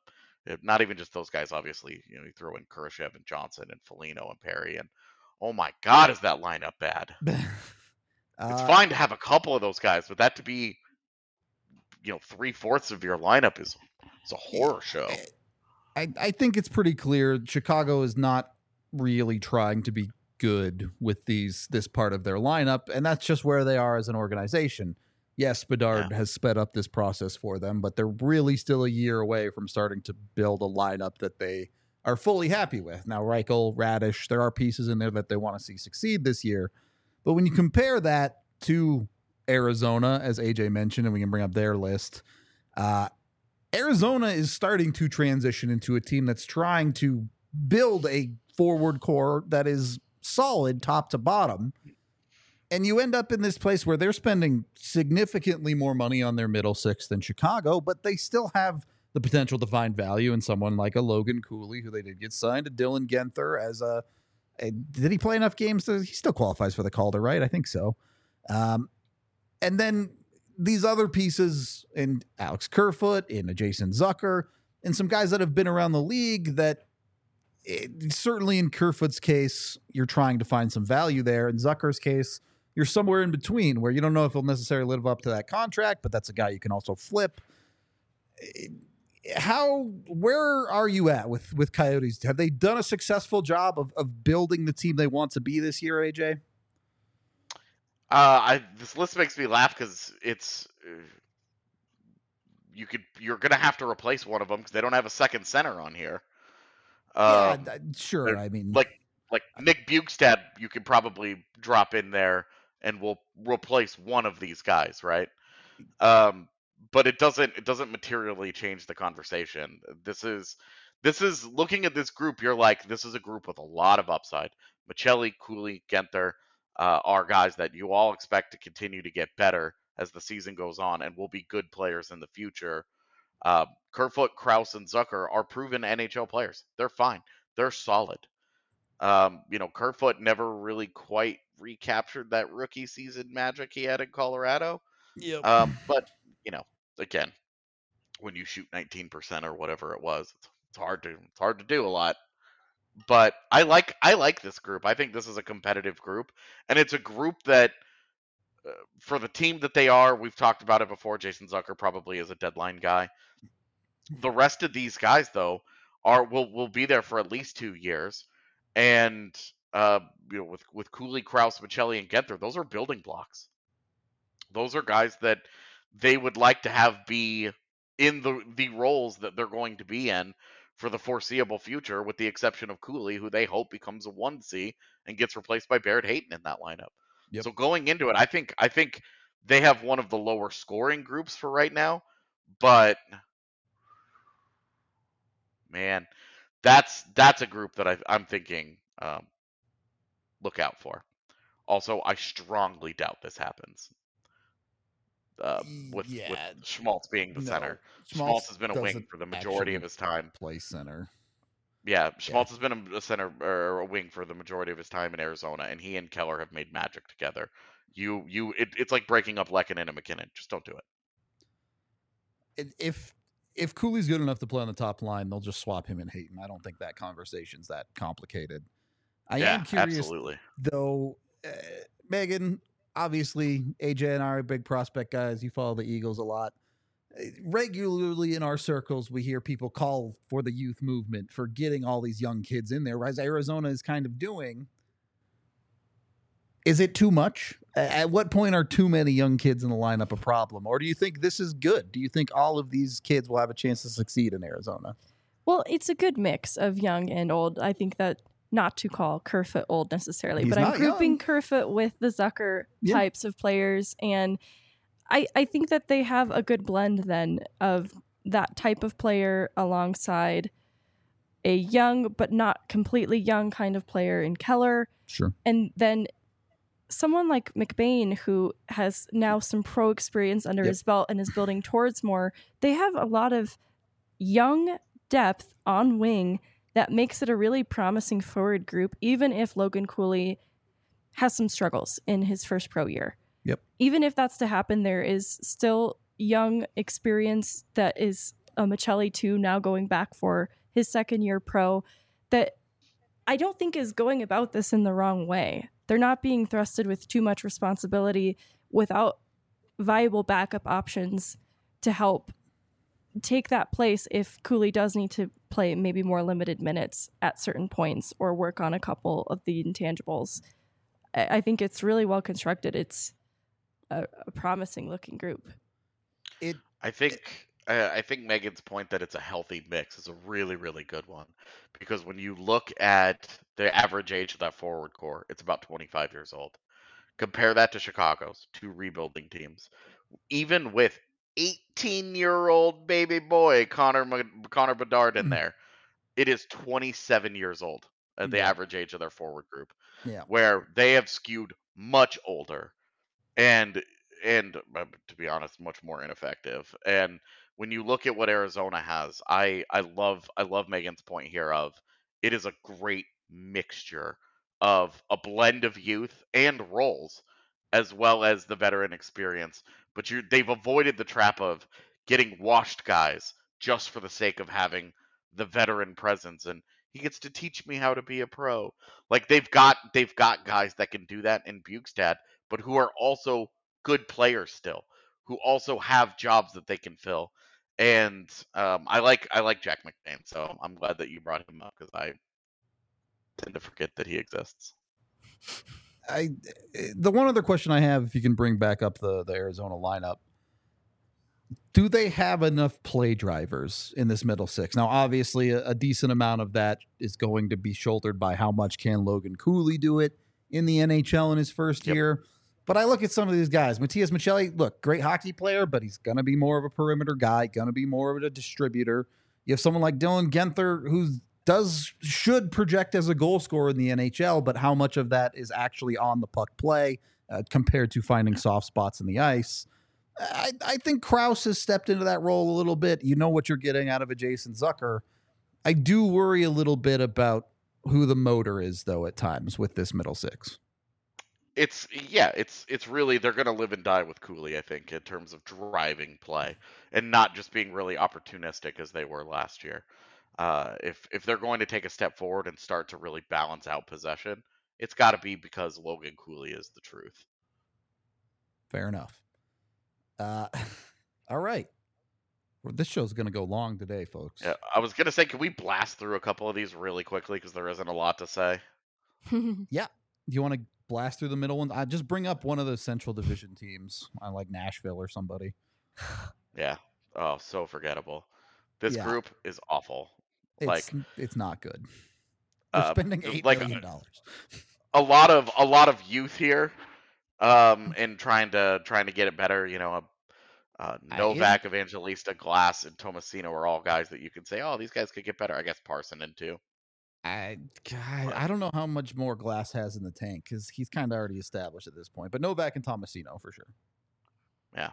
Not even just those guys, obviously. You know, you throw in Kurashev and Johnson and Foligno and Perry, and oh my God, is that lineup bad? uh, It's fine to have a couple of those guys, but that to be, you know, three fourths of your lineup is it's a horror show. I, I think it's pretty clear Chicago is not really trying to be good with these this part of their lineup, and that's just where they are as an organization. Yes, Bedard Yeah. has sped up this process for them, but they're really still a year away from starting to build a lineup that they are fully happy with. Now, Reichel, Radish, there are pieces in there that they want to see succeed this year. But when you compare that to Arizona, as A J mentioned, and we can bring up their list, uh, Arizona is starting to transition into a team that's trying to build a forward core that is solid top to bottom. And you end up in this place where they're spending significantly more money on their middle six than Chicago, but they still have the potential to find value in someone like a Logan Cooley, who they did get signed, to Dylan Genther as a, a did he play enough games? To, he still qualifies for the Calder, right? I think so. Um, and then these other pieces in Alex Kerfoot, in a Jason Zucker, and some guys that have been around the league that it, certainly in Kerfoot's case, you're trying to find some value there. In Zucker's case, you're somewhere in between where you don't know if he'll necessarily live up to that contract, but that's a guy you can also flip. How, where are you at with, with Coyotes? Have they done a successful job of, of building the team they want to be this year, A J? Uh, I this list makes me laugh because it's uh, you could you're gonna have to replace one of them because they don't have a second center on here. Um, yeah, sure. I mean, like like Nick Bjugstad, you could probably drop in there and we'll replace one of these guys, right? Um, but it doesn't it doesn't materially change the conversation. This is this is looking at this group. You're like, this is a group with a lot of upside. Machelli, Cooley, Genther uh, are guys that you all expect to continue to get better as the season goes on and will be good players in the future. Uh, Kerfoot, Krause, and Zucker are proven N H L players. They're fine. They're solid. Um, you know, Kerfoot never really quite recaptured that rookie season magic he had in Colorado. Yep. Um, but you know, again, when you shoot nineteen percent or whatever it was, it's, it's hard to it's hard to do a lot. But I like I like this group. I think this is a competitive group, and it's a group that, uh, for the team that they are, we've talked about it before. Jason Zucker probably is a deadline guy. The rest of these guys, though, are will will be there for at least two years, and uh, you know, with with Cooley, Krause, Machelli, and Genther, those are building blocks. Those are guys that they would like to have be in the the roles that they're going to be in for the foreseeable future, with the exception of Cooley, who they hope becomes a one C and gets replaced by Barrett Hayton in that lineup. Yep. So going into it, I think I think they have one of the lower scoring groups for right now, but man, that's that's a group that I, I'm thinking um, look out for. Also, I strongly doubt this happens. Uh, with yeah, with Schmaltz being the no, center, Schmaltz Schmaltz has been a wing doesn't for the majority actually of his time. play center. Yeah, Schmaltz has been a, a center or a wing for the majority of his time in Arizona, and he and Keller have made magic together. You you, it, it's like breaking up Lehkonen and McKinnon. Just don't do it. It- If if Cooley's good enough to play on the top line, they'll just swap him and Hayton. I don't think that conversation's that complicated. I yeah, am curious, absolutely. though, uh, Megan, obviously, A J and I are big prospect guys. You follow the Eagles a lot. Uh, Regularly in our circles, we hear people call for the youth movement, for getting all these young kids in there, as Arizona is kind of doing. Is it too much? At what point are too many young kids in the lineup a problem? Or do you think this is good? Do you think all of these kids will have a chance to succeed in Arizona? Well, it's a good mix of young and old. I think that not to call Kerfoot old necessarily, He's but I'm not grouping young. Kerfoot with the Zucker Yeah. types of players. And I, I think that they have a good blend then of that type of player alongside a young but not completely young kind of player in Keller. Sure. And then someone like McBain, who has now some pro experience under Yep. his belt and is building towards more. They have a lot of young depth on wing that makes it a really promising forward group, even if Logan Cooley has some struggles in his first pro year. Yep. Even if that's to happen, there is still young experience that is uh, Michelli too, now going back for his second year pro, that I don't think is going about this in the wrong way. They're not being thrusted with too much responsibility without viable backup options to help take that place if Cooley does need to play maybe more limited minutes at certain points or work on a couple of the intangibles. I, I think it's really well constructed. It's a, a promising looking group. It I think uh, I think Megan's point that it's a healthy mix is a really really good one, because when you look at the average age of that forward core, it's about twenty-five years old. Compare that to Chicago's two rebuilding teams. Even with eighteen-year-old baby boy Connor Ma- Connor Bedard in there, it is twenty-seven years old at the Yeah. average age of their forward group, Yeah. where they have skewed much older and and uh, to be honest, much more ineffective. And when you look at what Arizona has, I I love I love Megan's point here of it is a great mixture of a blend of youth and roles, as well as the veteran experience. But you they've avoided the trap of getting washed guys just for the sake of having the veteran presence, and he gets to teach me how to be a pro. Like they've got they've got guys that can do that in Bukestad, but who are also good players still, who also have jobs that they can fill. And um, I like I like Jack McBain, so I'm glad that you brought him up because I tend to forget that he exists. I the one other question I have, if you can bring back up the the Arizona lineup, do they have enough play drivers in this middle six? Now, obviously, a, a decent amount of that is going to be shouldered by how much can Logan Cooley do it in the N H L in his first Yep. year. But I look at some of these guys. Matias Michelli, look, great hockey player, but he's going to be more of a perimeter guy, going to be more of a distributor. You have someone like Dylan Genther, who does should project as a goal scorer in the N H L, but how much of that is actually on the puck play uh, compared to finding soft spots in the ice? I, I think Krause has stepped into that role a little bit. You know what you're getting out of a Jason Zucker. I do worry a little bit about who the motor is, though, at times with this middle six. It's yeah, it's it's really they're gonna live and die with Cooley, I think, in terms of driving play and not just being really opportunistic as they were last year. Uh, if if they're going to take a step forward and start to really balance out possession, it's got to be because Logan Cooley is the truth. Fair enough. Uh, all right. Well, this show's going to go long today, folks. Yeah, I was gonna say, can we blast through a couple of these really quickly because there isn't a lot to say. Yeah. Do you want to blast through the middle ones? I just bring up one of the Central Division teams. I like Nashville or somebody. Yeah. Oh, so forgettable. This Yeah. group is awful. It's Like it's not good. They're uh, spending eight like million dollars. a lot of a lot of youth here, um, and trying to trying to get it better. You know, uh, I- Novak, Evangelista, Glass, and Tomasino are all guys that you could say, oh, these guys could get better. I guess Parsonen too. I God, I don't know how much more Glass has in the tank because he's kind of already established at this point. But Novak and Tomasino for sure. Yeah.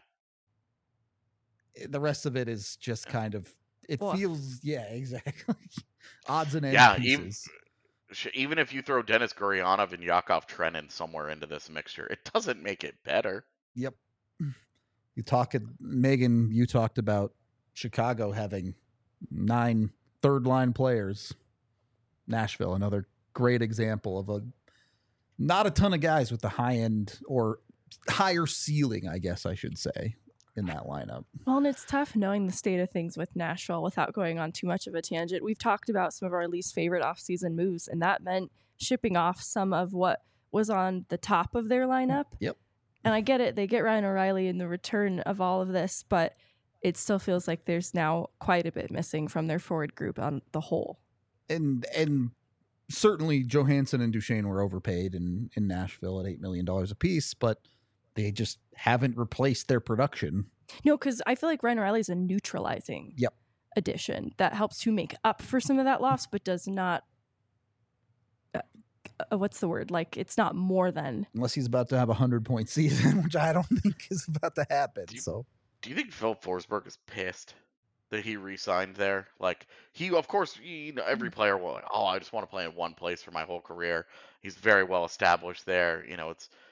The rest of it is just kind of. It Well, feels yeah exactly odds and ends Yeah, even- pieces. Sh- Even if you throw Dennis Gurionov and Yakov Trenin somewhere into this mixture, it doesn't make it better. Yep. You talk Megan. You talked about Chicago having nine third line players. Nashville, another great example of a not a ton of guys with the high end or higher ceiling, I guess I should say, in that lineup. Well, and it's tough knowing the state of things with Nashville without going on too much of a tangent. We've talked about some of our least favorite offseason moves, and that meant shipping off some of what was on the top of their lineup. Yep. And I get it. They get Ryan O'Reilly in the return of all of this, but it still feels like there's now quite a bit missing from their forward group on the whole. And and certainly Johansson and Duchesne were overpaid in, in Nashville at eight million dollars apiece, but they just haven't replaced their production. No, because I feel like Ryan O'Reilly is a neutralizing Yep. addition that helps to make up for some of that loss, but does not. Uh, uh, what's the word? Like, it's not more than. Unless he's about to have a hundred point season, which I don't think is about to happen. Do you- So Do you think Philip Forsberg is pissed that he re-signed there? Like he, of course, you know, every player will. Like, oh, I just want to play in one place for my whole career. He's very well established there. You know, it's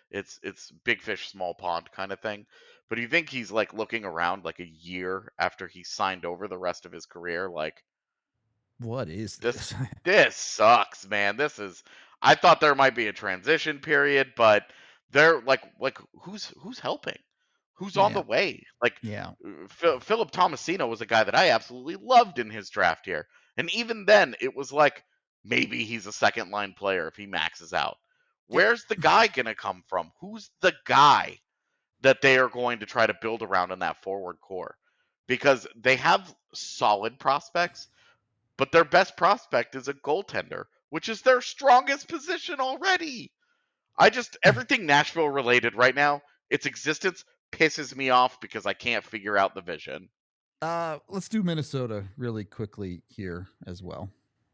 It's it's big fish, small pond kind of thing. But do you think he's like looking around like a year after he signed over the rest of his career, like What is this this? this sucks, man. This is I thought there might be a transition period, but they're like like who's who's helping? Who's on Yeah. the way? Like Yeah. Phil, Philip Tomasino was a guy that I absolutely loved in his draft here. And even then it was like maybe he's a second line player if he maxes out. Yeah. Where's the guy going to come from? Who's the guy that they are going to try to build around in that forward core? Because they have solid prospects, but their best prospect is a goaltender, which is their strongest position already. I just, everything Nashville related right now, its existence pisses me off because I can't figure out the vision. Uh, let's do Minnesota really quickly here as well.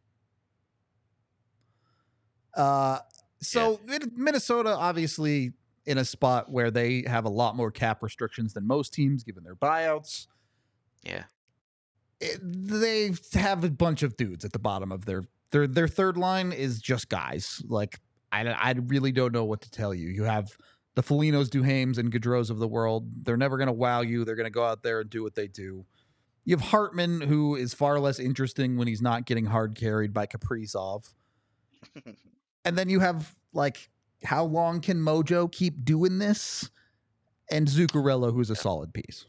Uh, so yeah. Minnesota, obviously, in a spot where they have a lot more cap restrictions than most teams, given their buyouts. Yeah. It, they have a bunch of dudes at the bottom of their their their third line is just guys. Like I, I really don't know what to tell you. You have the Folignos, Duhaimes, and Gaudreaus of the world. They're never going to wow you. They're going to go out there and do what they do. You have Hartman, who is far less interesting when he's not getting hard carried by Kaprizov. And then you have, like, how long can Mojo keep doing this? And Zuccarello, who's a solid piece.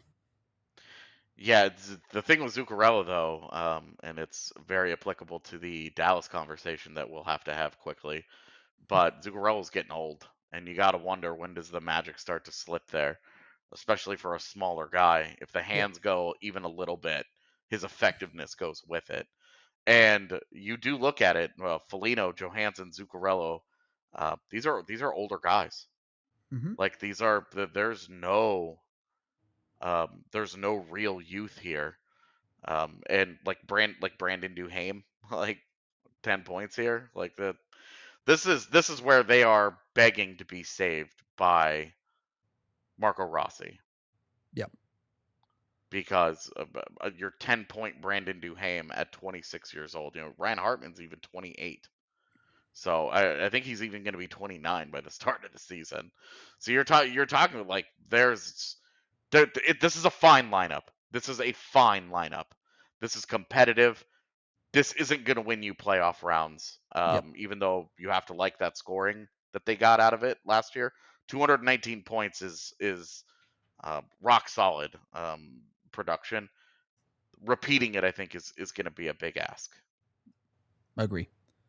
Yeah, it's, the thing with Zuccarello, though, um, and it's very applicable to the Dallas conversation that we'll have to have quickly, but Zuccarello's getting old, and you got to wonder, when does the magic start to slip there, especially for a smaller guy. If the hands yeah. go even a little bit, his effectiveness goes with it. And you do look at it, well, Foligno, Johansson, Zuccarello, uh, these are these are older guys. Mm-hmm. Like these are there's no um, there's no real youth here. Um, and like Brand like Brandon Duhaime, like ten points here. Like the this is this is where they are begging to be saved by Marco Rossi. Yep. Because uh, your ten point Brandon Duhaime at twenty-six years old. You know, Ryan Hartman's even twenty-eight. So I, I think he's even going to be twenty-nine by the start of the season. So you're talking you're talking like there's there, it, this is a fine lineup. This is a fine lineup. This is competitive. This isn't going to win you playoff rounds. Um, yep. Even though you have to like that scoring that they got out of it last year. two hundred nineteen points is is uh, rock solid um, production. Repeating it, I think, is is going to be a big ask. I agree.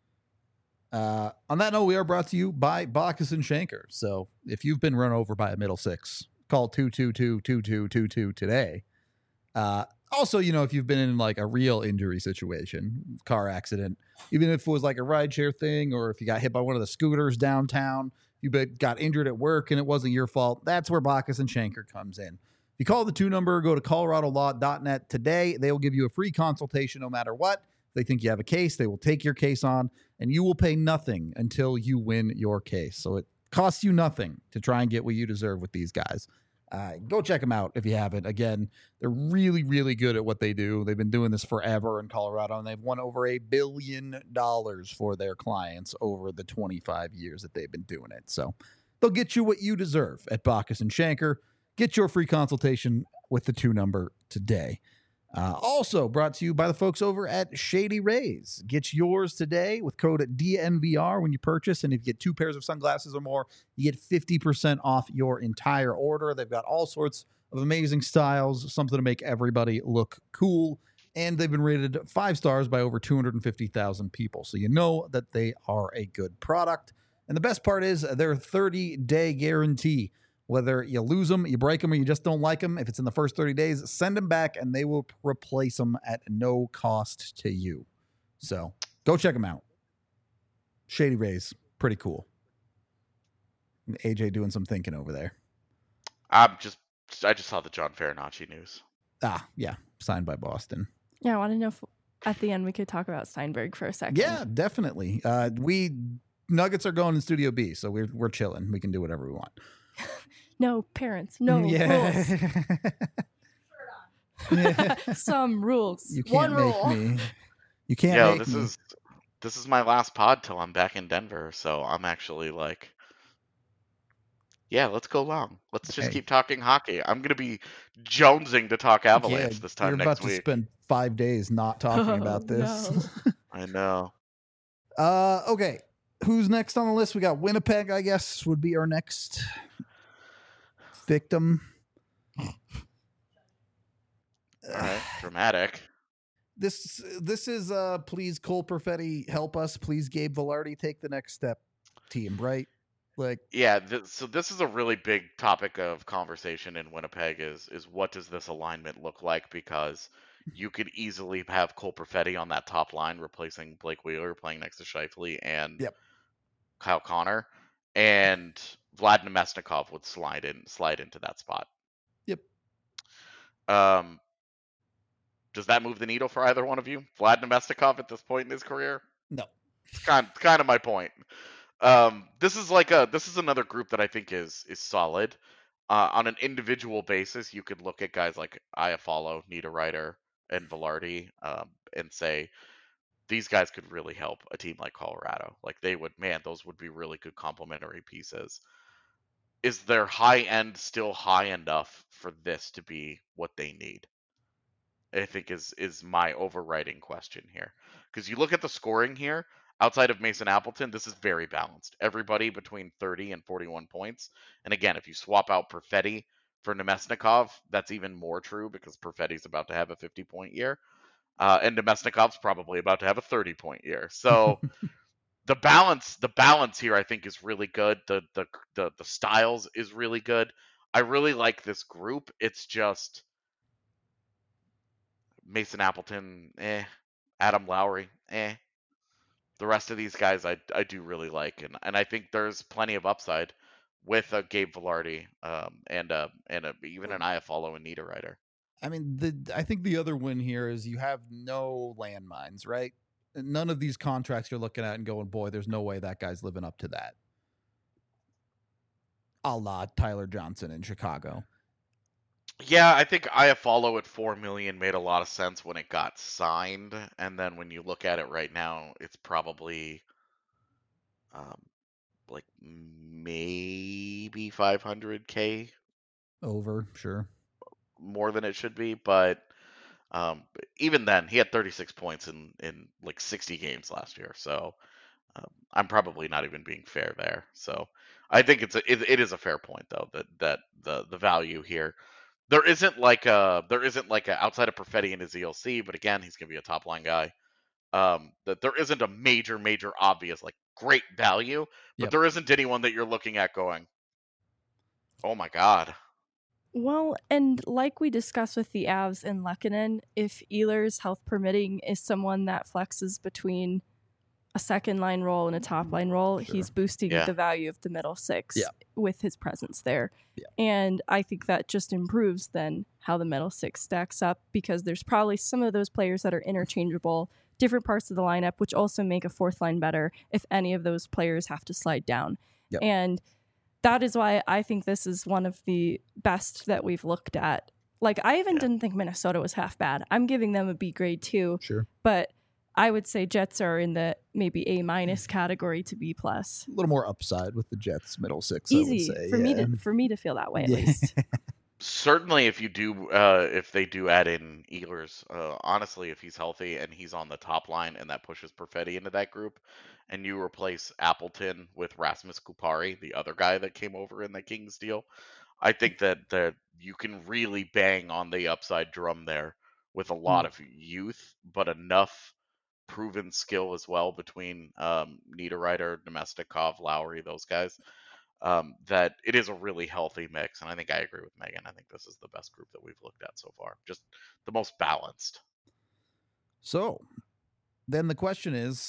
Uh, on that note, we are brought to you by Bacchus and Schenker. So if you've been run over by a middle six, call two two two, two two two two today. Uh, also, you know, if you've been in like a real injury situation, car accident, even if it was like a rideshare thing, or if you got hit by one of the scooters downtown, you got injured at work and it wasn't your fault, that's where Bacchus and Schenker comes in. If you call the two number, go to colorado law dot net today. They will give you a free consultation no matter what. If they think you have a case, they will take your case on, and you will pay nothing until you win your case. So it costs you nothing to try and get what you deserve with these guys. Uh, go check them out if you haven't. Again, they're really, really good at what they do. They've been doing this forever in Colorado, and they've won over a billion dollars for their clients over the twenty-five years that they've been doing it. So they'll get you what you deserve at Bacchus and Schenker. Get your free consultation with the two number today. Uh, also brought to you by the folks over at Shady Rays. Get yours today with code D N V R when you purchase. And if you get two pairs of sunglasses or more, you get fifty percent off your entire order. They've got all sorts of amazing styles, something to make everybody look cool. And they've been rated five stars by over two hundred fifty thousand people. So you know that they are a good product. And the best part is their thirty-day guarantee. Whether you lose them, you break them, or you just don't like them, if it's in the first thirty days, send them back and they will replace them at no cost to you. So go check them out. Shady Rays, pretty cool. A J doing some thinking over there. I'm just, I just saw the John Farinacci news. Ah, yeah, signed by Boston. Yeah, I want to know if at the end we could talk about Steinberg for a second. Yeah, definitely. Uh, we Nuggets are going in Studio B, so we're we're chilling. We can do whatever we want. No parents, no yeah. rules. yeah. Some rules. You can't One make rule. me. You can't Yo, make this me. is this is my last pod till I'm back in Denver, so I'm actually like Yeah, let's go long. Let's just Hey. keep talking hockey. I'm gonna be jonesing to talk Avalanche Yeah, this time you're next about to week. spend five days not talking Oh, about this. no. I know. uh, okay. Who's next on the list? We got Winnipeg, I guess, would be our next victim. All right, dramatic. This this is uh please Cole Perfetti help us. Please Gabe Velarde take the next step team, right? Like Yeah, th- so this is a really big topic of conversation in Winnipeg is is what does this alignment look like? Because you could easily have Cole Perfetti on that top line replacing Blake Wheeler playing next to Scheifele and Yep. Kyle Connor, and Vlad Nemesnikov would slide in slide into that spot. Yep. Um, does that move the needle for either one of you? Vlad Nemesnikov at this point in his career? No. It's kind kind of my point. Um, this is like a this is another group that I think is is solid. Uh, on an individual basis, you could look at guys like Iafallo, Niederreiter, and Velarde, um, and say these guys could really help a team like Colorado. Like they would, man, those would be really good complementary pieces. Is their high end still high enough for this to be what they need? I think is is my overriding question here. Because you look at the scoring here, outside of Mason Appleton, this is very balanced. Everybody between thirty and forty-one points. And again, if you swap out Perfetti for Nemesnikov, that's even more true because Perfetti's about to have a fifty point year. Uh, and Nemesnikov's probably about to have a thirty point year. So the balance the balance here I think is really good. The the the, the styles is really good. I really like this group. It's just Mason Appleton, eh. Adam Lowry, eh. The rest of these guys I I do really like, and and I think there's plenty of upside with a Gabe Velarde, um, and a and a, even an Iafallo and Niederreiter. I mean, the I think the other win here is you have no landmines, right? None of these contracts you're looking at and going, boy, there's no way that guy's living up to that. A la Tyler Johnson in Chicago. Yeah, I think Iafallo at four million made a lot of sense when it got signed, and then when you look at it right now, it's probably um, like maybe five hundred k Over, sure. more than it should be, but um, even then, he had thirty-six points in in like sixty games last year. So um, I'm probably not even being fair there. So I think it's a, it, it is a fair point though that that the the value here. There isn't like a there isn't like a outside of Perfetti and his E L C, but again, he's gonna be a top line guy. Um, that there isn't a major major obvious like great value, but Yep. there isn't anyone that you're looking at going, oh my god. Well, and like we discussed with the Avs and Lehkonen, if Ehlers, health permitting, is someone that flexes between a second line role and a top line role, Sure. he's boosting Yeah. the value of the middle six Yeah. with his presence there. Yeah. And I think that just improves then how the middle six stacks up because there's probably some of those players that are interchangeable, different parts of the lineup, which also make a fourth line better if any of those players have to slide down. Yep. And that is why I think this is one of the best that we've looked at. Like, I even Yeah. didn't think Minnesota was half bad. I'm giving them a B grade too, Sure. but I would say Jets are in the maybe A minus category to B plus. A little more upside with the Jets middle six. Easy I would say. for yeah. me to for me to feel that way at Yeah. least. Certainly, if you do, uh, if they do add in Ehlers, uh, honestly, if he's healthy and he's on the top line and that pushes Perfetti into that group, and you replace Appleton with Rasmus Kupari, the other guy that came over in the Kings deal, I think that that you can really bang on the upside drum there with a lot Mm. of youth, but enough proven skill as well between um, Niederreiter, Nemestikov, Lowry, those guys. Um, that it is a really healthy mix, and I think I agree with Megan. I think this is the best group that we've looked at so far, just the most balanced. So then the question is,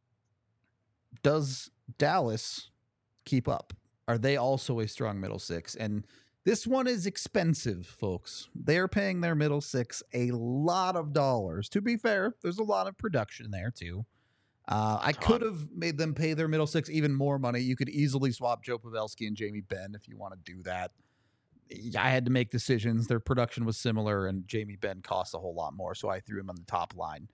does Dallas keep up? Are they also a strong middle six? And this one is expensive, folks. They're paying their middle six a lot of dollars. To be fair, there's a lot of production there too. Uh, I Ton. could have made them pay their middle six even more money. You could easily swap Joe Pavelski and Jamie Benn if you want to do that. I had to make decisions. Their production was similar, and Jamie Benn cost a whole lot more, so I threw him on the top line.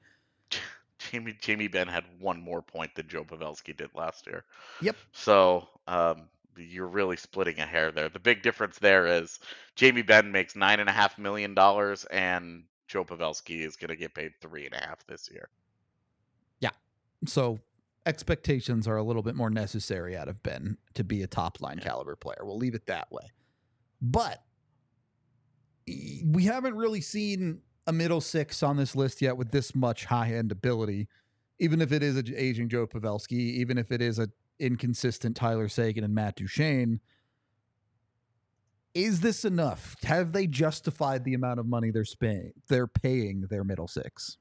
Jamie Jamie Benn had one more point than Joe Pavelski did last year. Yep. So um, you're really splitting a hair there. The big difference there is Jamie Benn makes nine and a half million dollars, and Joe Pavelski is going to get paid three and a half this year. Yeah. So expectations are a little bit more necessary out of Ben to be a top line Yeah. caliber player. We'll leave it that way. But we haven't really seen a middle six on this list yet with this much high end ability, even if it is an aging Joe Pavelski, even if it is a inconsistent Tyler Seguin and Matt Duchene. Is this enough? Have they justified the amount of money they're paying? They're paying their middle six.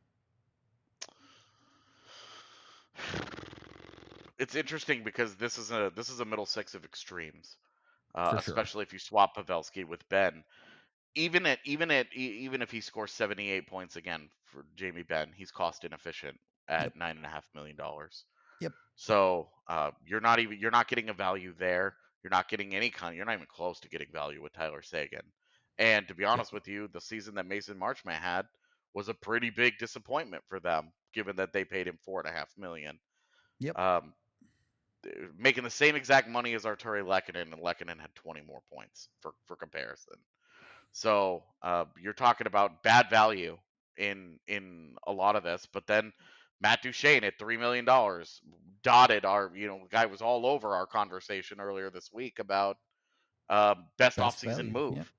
It's interesting because this is a this is a middle six of extremes, uh, For sure. especially if you swap Pavelski with Ben. Even at even at e- even if he scores seventy-eight points again for Jamie Benn, he's cost inefficient at Yep. nine and a half million dollars. Yep. So uh, you're not even you're not getting a value there. You're not getting any kind. You're not even close to getting value with Tyler Seguin. And to be honest with you, the season that Mason Marchment had was a pretty big disappointment for them, given that they paid him four and a half million. Yep. Um, making the same exact money as Arturi Lehkonen, and Lehkonen had twenty more points for for comparison. So uh, you're talking about bad value in in a lot of this, but then Matt Duchene at three million dollars dotted our, you know, the guy was all over our conversation earlier this week about uh, best, Best offseason value, move. yep.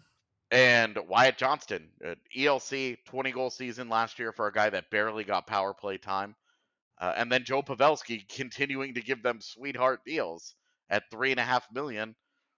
And Wyatt Johnston, uh, E L C, twenty goal season last year for a guy that barely got power play time. Uh, and then Joe Pavelski continuing to give them sweetheart deals at three and a half million.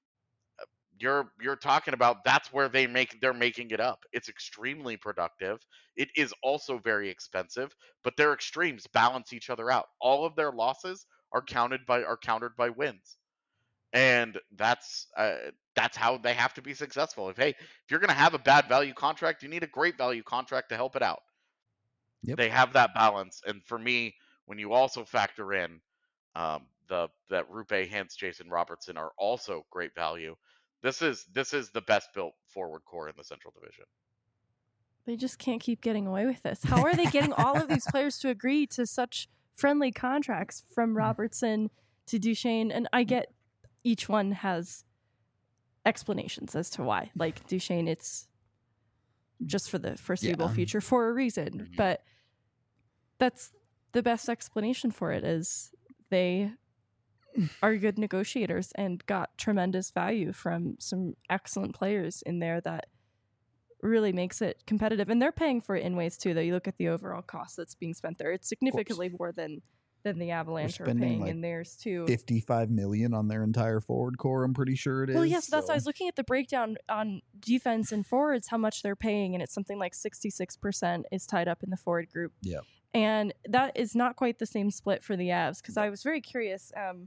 You're you're talking about that's where they make they're making it up. It's extremely productive. It is also very expensive, but their extremes balance each other out. All of their losses are counted by are countered by wins, and that's uh, that's how they have to be successful. If hey, if you're going to have a bad value contract, you need a great value contract to help it out. Yep. They have that balance, and for me, when you also factor in um, the that Rupe Hintz, Jason Robertson are also great value. This is this is the best built forward core in the Central Division. They just can't keep getting away with this. How are they getting all of these players to agree to such friendly contracts from Robertson to Duchene? And I get each one has explanations as to why. Like Duchene, it's just for the foreseeable Yeah. future for a reason. Mhm. But that's the best explanation for it is they are good negotiators and got tremendous value from some excellent players in there that really makes it competitive. And they're paying for it in ways too, though. You look at the overall cost that's being spent there. It's significantly more than than the Avalanche are spending, paying like, in theirs too. fifty-five million on their entire forward core, I'm pretty sure it is. Well, yes, that's why I so- was looking at the breakdown on defense and forwards, how much they're paying, and it's something like sixty-six percent is tied up in the forward group. Yeah. And that is not quite the same split for the Avs, because I was very curious. Um,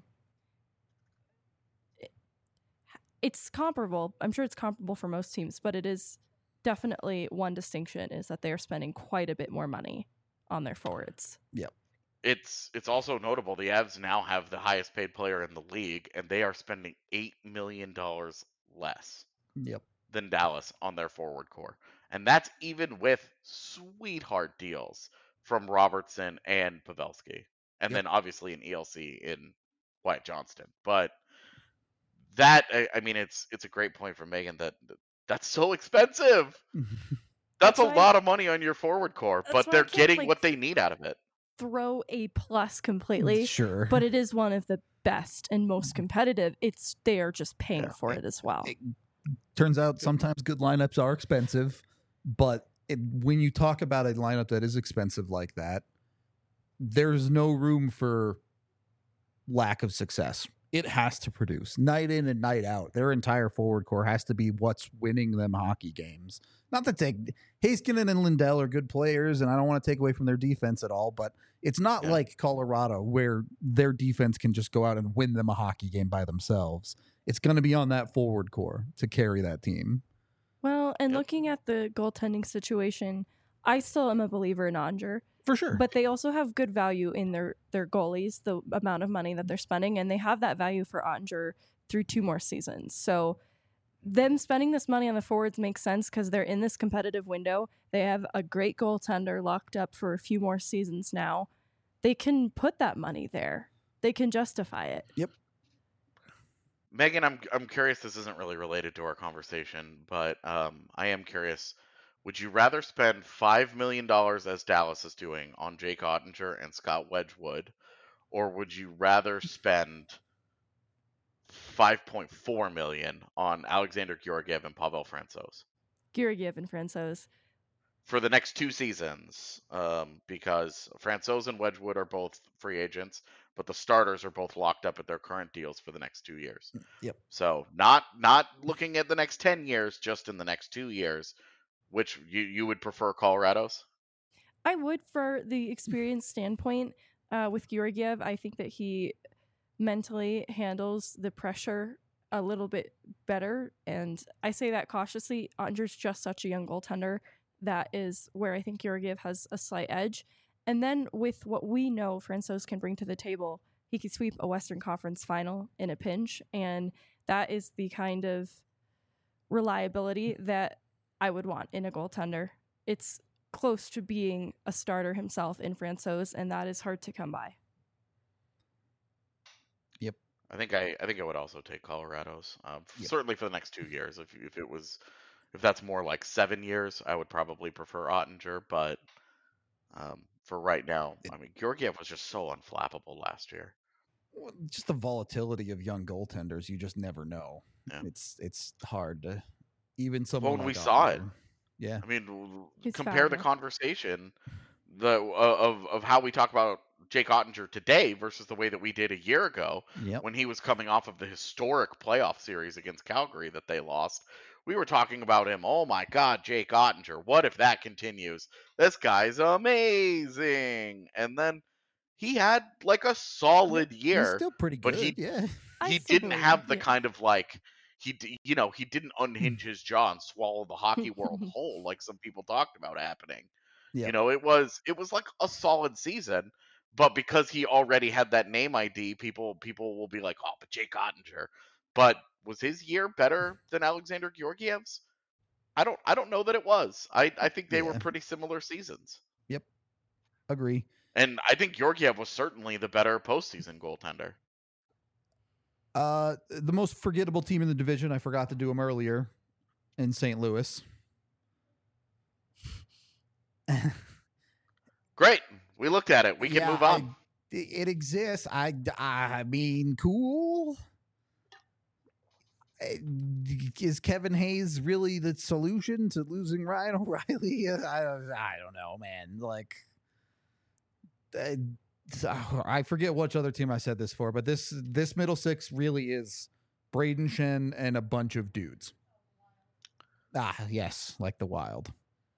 it- it's comparable. I'm sure it's comparable for most teams, but it is definitely one distinction is that they are spending quite a bit more money on their forwards. It's it's also notable the Avs now have the highest paid player in the league, and they are spending eight million dollars less Yep. than Dallas on their forward core, and that's even with sweetheart deals from Robertson and Pavelski, and Yep. then obviously an E L C in Wyatt Johnston. But that I, I mean, it's it's a great point from Megan that that's so expensive. That's, That's a why- lot of money on your forward core, That's but why I they're can't, getting like, what they need out of it. Throw a plus completely, Sure. but it is one of the best and most competitive. It's they are just paying Yeah. for it as well. It turns out sometimes good lineups are expensive, but it, when you talk about a lineup that is expensive like that, there's no room for lack of success. It has to produce night in and night out. Their entire forward core has to be what's winning them hockey games. Not that they, Heiskanen and Lindell are good players, and I don't want to take away from their defense at all, but it's not Yeah. like Colorado where their defense can just go out and win them a hockey game by themselves. It's going to be on that forward core to carry that team. Well, and Yep. looking at the goaltending situation, I still am a believer in Onger, For sure. but they also have good value in their their goalies, the amount of money that they're spending, and they have that value for Onger through two more seasons. So them spending this money on the forwards makes sense because they're in this competitive window. They have a great goaltender locked up for a few more seasons now. They can put that money there. They can justify it. Megan, I'm I'm curious. This isn't really related to our conversation, but um, I am curious. Would you rather spend five million dollars as Dallas is doing on Jake Ottinger and Scott Wedgwood, or would you rather spend five point four million on Alexander Georgiev and Pavel Francouz Georgiev and Francouz. for the next two seasons? Um, because Francouz and Wedgwood are both free agents, but the starters are both locked up at their current deals for the next two years. Yep. So not not looking at the next ten years, just in the next two years. Which you you would prefer Colorado's? I would, for the experience standpoint, uh, with Georgiev. I think that he mentally handles the pressure a little bit better. And I say that cautiously. Ottinger's just such a young goaltender. That is where I think Georgiev has a slight edge. And then with what we know Francouz can bring to the table, he could sweep a Western Conference final in a pinch. And that is the kind of reliability that I would want in a goaltender. It's close to being a starter himself in Francouz, and that is hard to come by. Yep. I think I, I think I would also take Colorado's. Um, Yep. Certainly for the next two years. If if it was if that's more like seven years, I would probably prefer Ottinger. But um, for right now, I mean, Georgiev was just so unflappable last year. Well, just the volatility of young goaltenders, you just never know. Yeah. It's it's hard to even someone Well, when like we saw it. Ottinger. Yeah. I mean, w- He's compare the fabulous. conversation the uh, of of how we talk about Jake Ottinger today versus the way that we did a year ago Yep. when he was coming off of the historic playoff series against Calgary that they lost. We were talking about him. Oh my God, Jake Ottinger. What if that continues? This guy's amazing. And then he had like a solid He's year, still pretty but good. he yeah. I he still didn't believe have him, the yeah. kind of like he d- you know he didn't unhinge his jaw and swallow the hockey world whole like some people talked about happening. Yeah. You know, it was it was like a solid season, but because he already had that name I D, people people will be like, oh, but Jake Ottinger. But was his year better than Alexander Georgiev's? I don't I don't know that it was. I I think they were Yeah. pretty similar seasons, Yep. Agree. and I think Georgiev was certainly the better postseason goaltender. Uh, the most forgettable team in the division, I forgot to do them earlier, in Saint Louis. Great, we looked at it. We can Yeah, move on. I- it exists. I, I mean, cool. Uh, Is Kevin Hayes really the solution to losing Ryan O'Reilly? I don't, I don't know, man. Like, uh, I forget which other team I said this for, but this this middle six really is Braden Shen and a bunch of dudes. Ah, yes, like the Wild.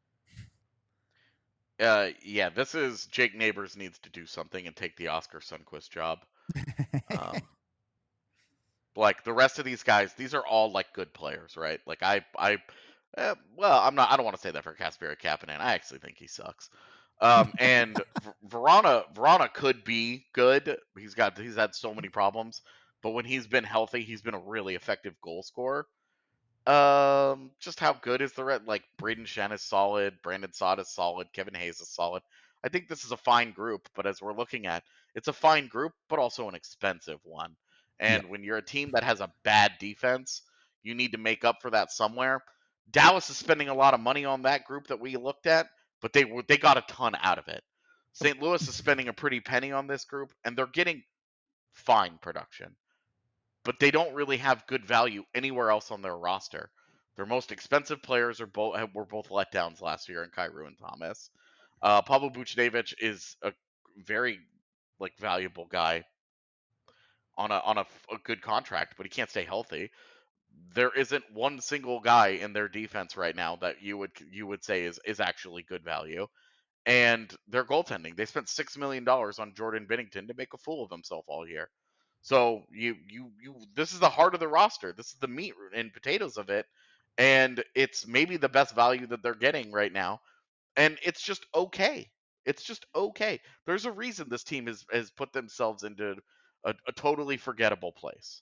Uh, yeah, this is Jake Neighbors needs to do something and take the Oscar Sundquist job. Um, like the rest of these guys, these are all like good players, right? Like I, I, eh, well, I'm not. I don't want to say that for Kasperi Kapanen. I actually think he sucks. Um, and V- Verona, Verona could be good. He's got he's had so many problems, but when he's been healthy, he's been a really effective goal scorer. Um, just how good is the red? Like Braden Shen is solid, Brandon Saad is solid, Kevin Hayes is solid. I think this is a fine group, but as we're looking at, it's a fine group, but also an expensive one. And when you're a team that has a bad defense, you need to make up for that somewhere. Dallas is spending a lot of money on that group that we looked at, but they were they got a ton out of it. Saint Louis is spending a pretty penny on this group, and they're getting fine production, but they don't really have good value anywhere else on their roster. Their most expensive players are both were both letdowns last year in Kyrou and Thomas. Uh, Pablo Buchnevich is a very like valuable guy on a on a, a good contract, but he can't stay healthy. There isn't one single guy in their defense right now that you would you would say is is actually good value. And their goaltending, they spent six million dollars on Jordan Binnington to make a fool of himself all year. So you you you this is the heart of the roster. This is the meat and potatoes of it, and it's maybe the best value that they're getting right now. And it's just okay. It's just okay. There's a reason this team has has put themselves into a, a totally forgettable place.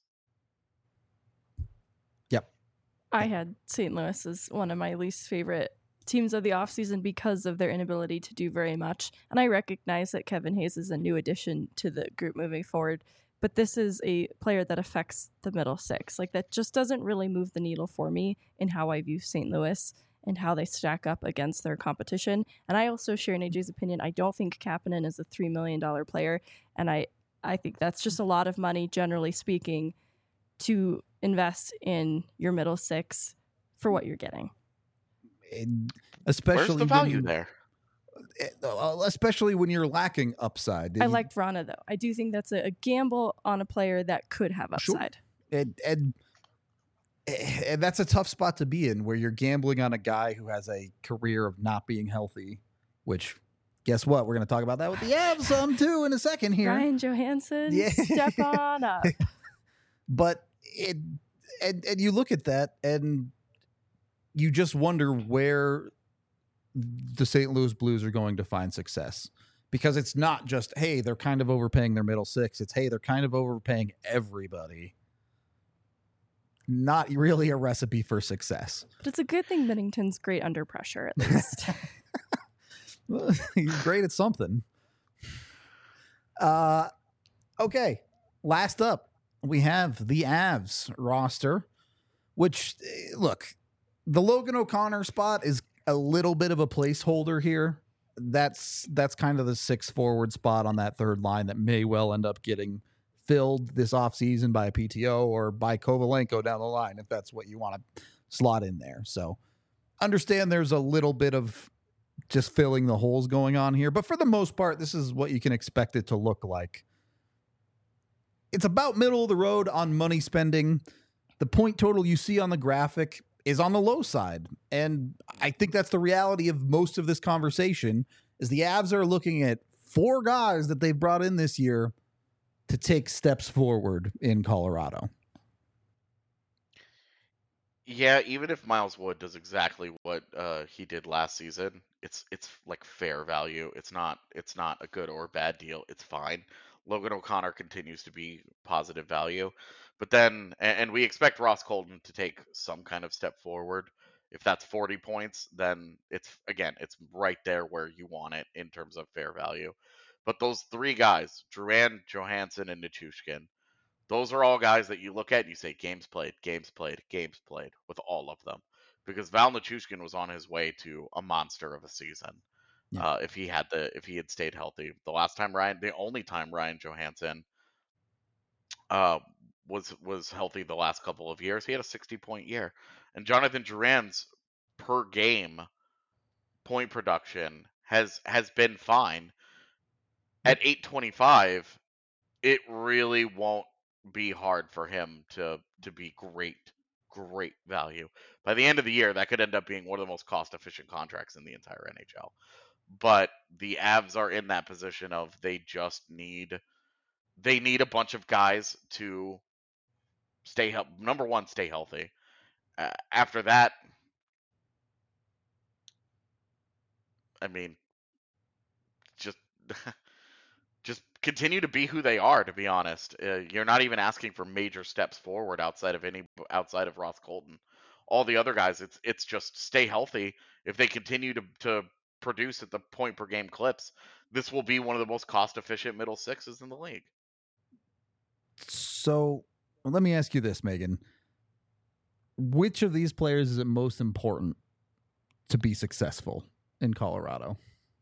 Yep. I had Saint Louis as one of my least favorite teams of the offseason because of their inability to do very much. And I recognize that Kevin Hayes is a new addition to the group moving forward, but this is a player that affects the middle six. Like, that just doesn't really move the needle for me in how I view Saint Louis and how they stack up against their competition. And I also share A J's opinion. I don't think Kapanen is a three million dollars player, and I, I think that's just a lot of money, generally speaking, to invest in your middle six for what you're getting. And especially Where's the value when, there? Especially when you're lacking upside. I liked Vrana, though. I do think that's a, a gamble on a player that could have upside. Sure. And, and and that's a tough spot to be in, where you're gambling on a guy who has a career of not being healthy, which guess what? We're going to talk about that with the Avs some too in a second here. Ryan Johansson, Yeah. step on up. But it, and, and you look at that and you just wonder where the Saint Louis Blues are going to find success, because it's not just, hey, they're kind of overpaying their middle six. It's, hey, they're kind of overpaying everybody. Not really a recipe for success. But it's a good thing Bennington's great under pressure, at least. Well, he's great at something. Uh, okay. Last up, we have the Avs roster, which, look, the Logan O'Connor spot is a little bit of a placeholder here. That's that's kind of the six forward spot on that third line that may well end up getting filled this offseason by a P T O or by Kovalenko down the line, if that's what you want to slot in there. So understand there's a little bit of just filling the holes going on here, but for the most part, this is what you can expect it to look like. It's about middle of the road on money spending. The point total you see on the graphic is on the low side. And I think that's the reality of most of this conversation, is the Avs are looking at four guys that they've brought in this year to take steps forward in Colorado. Yeah, even if Miles Wood does exactly what uh, he did last season, it's it's like fair value. It's not it's not a good or bad deal. It's fine. Logan O'Connor continues to be positive value, but then and, and we expect Ross Colton to take some kind of step forward. If that's forty points, then it's again it's right there where you want it in terms of fair value. But those three guys, Drouin, Johansson, and Nichushkin, those are all guys that you look at and you say, games played, games played, games played with all of them. Because Val Nichushkin was on his way to a monster of a season. Yeah. Uh, if he had the if he had stayed healthy. The last time Ryan, the only time Ryan Johansson uh, was was healthy the last couple of years, he had a sixty point year. And Jonathan Drouin's per game point production has has been fine. At eight twenty-five, it really won't be hard for him to to be great, great value. By the end of the year, that could end up being one of the most cost-efficient contracts in the entire N H L. But the Avs are in that position of they just need they need a bunch of guys to stay healthy. Number one, stay healthy. Uh, after that, I mean, just just continue to be who they are. To be honest, uh, you're not even asking for major steps forward outside of any outside of Ross Colton. All the other guys, it's it's just stay healthy. If they continue to to produce at the point per game clips, this will be one of the most cost efficient middle sixes in the league. So well, let me ask you this, Megan. Which of these players is it most important to be successful in Colorado?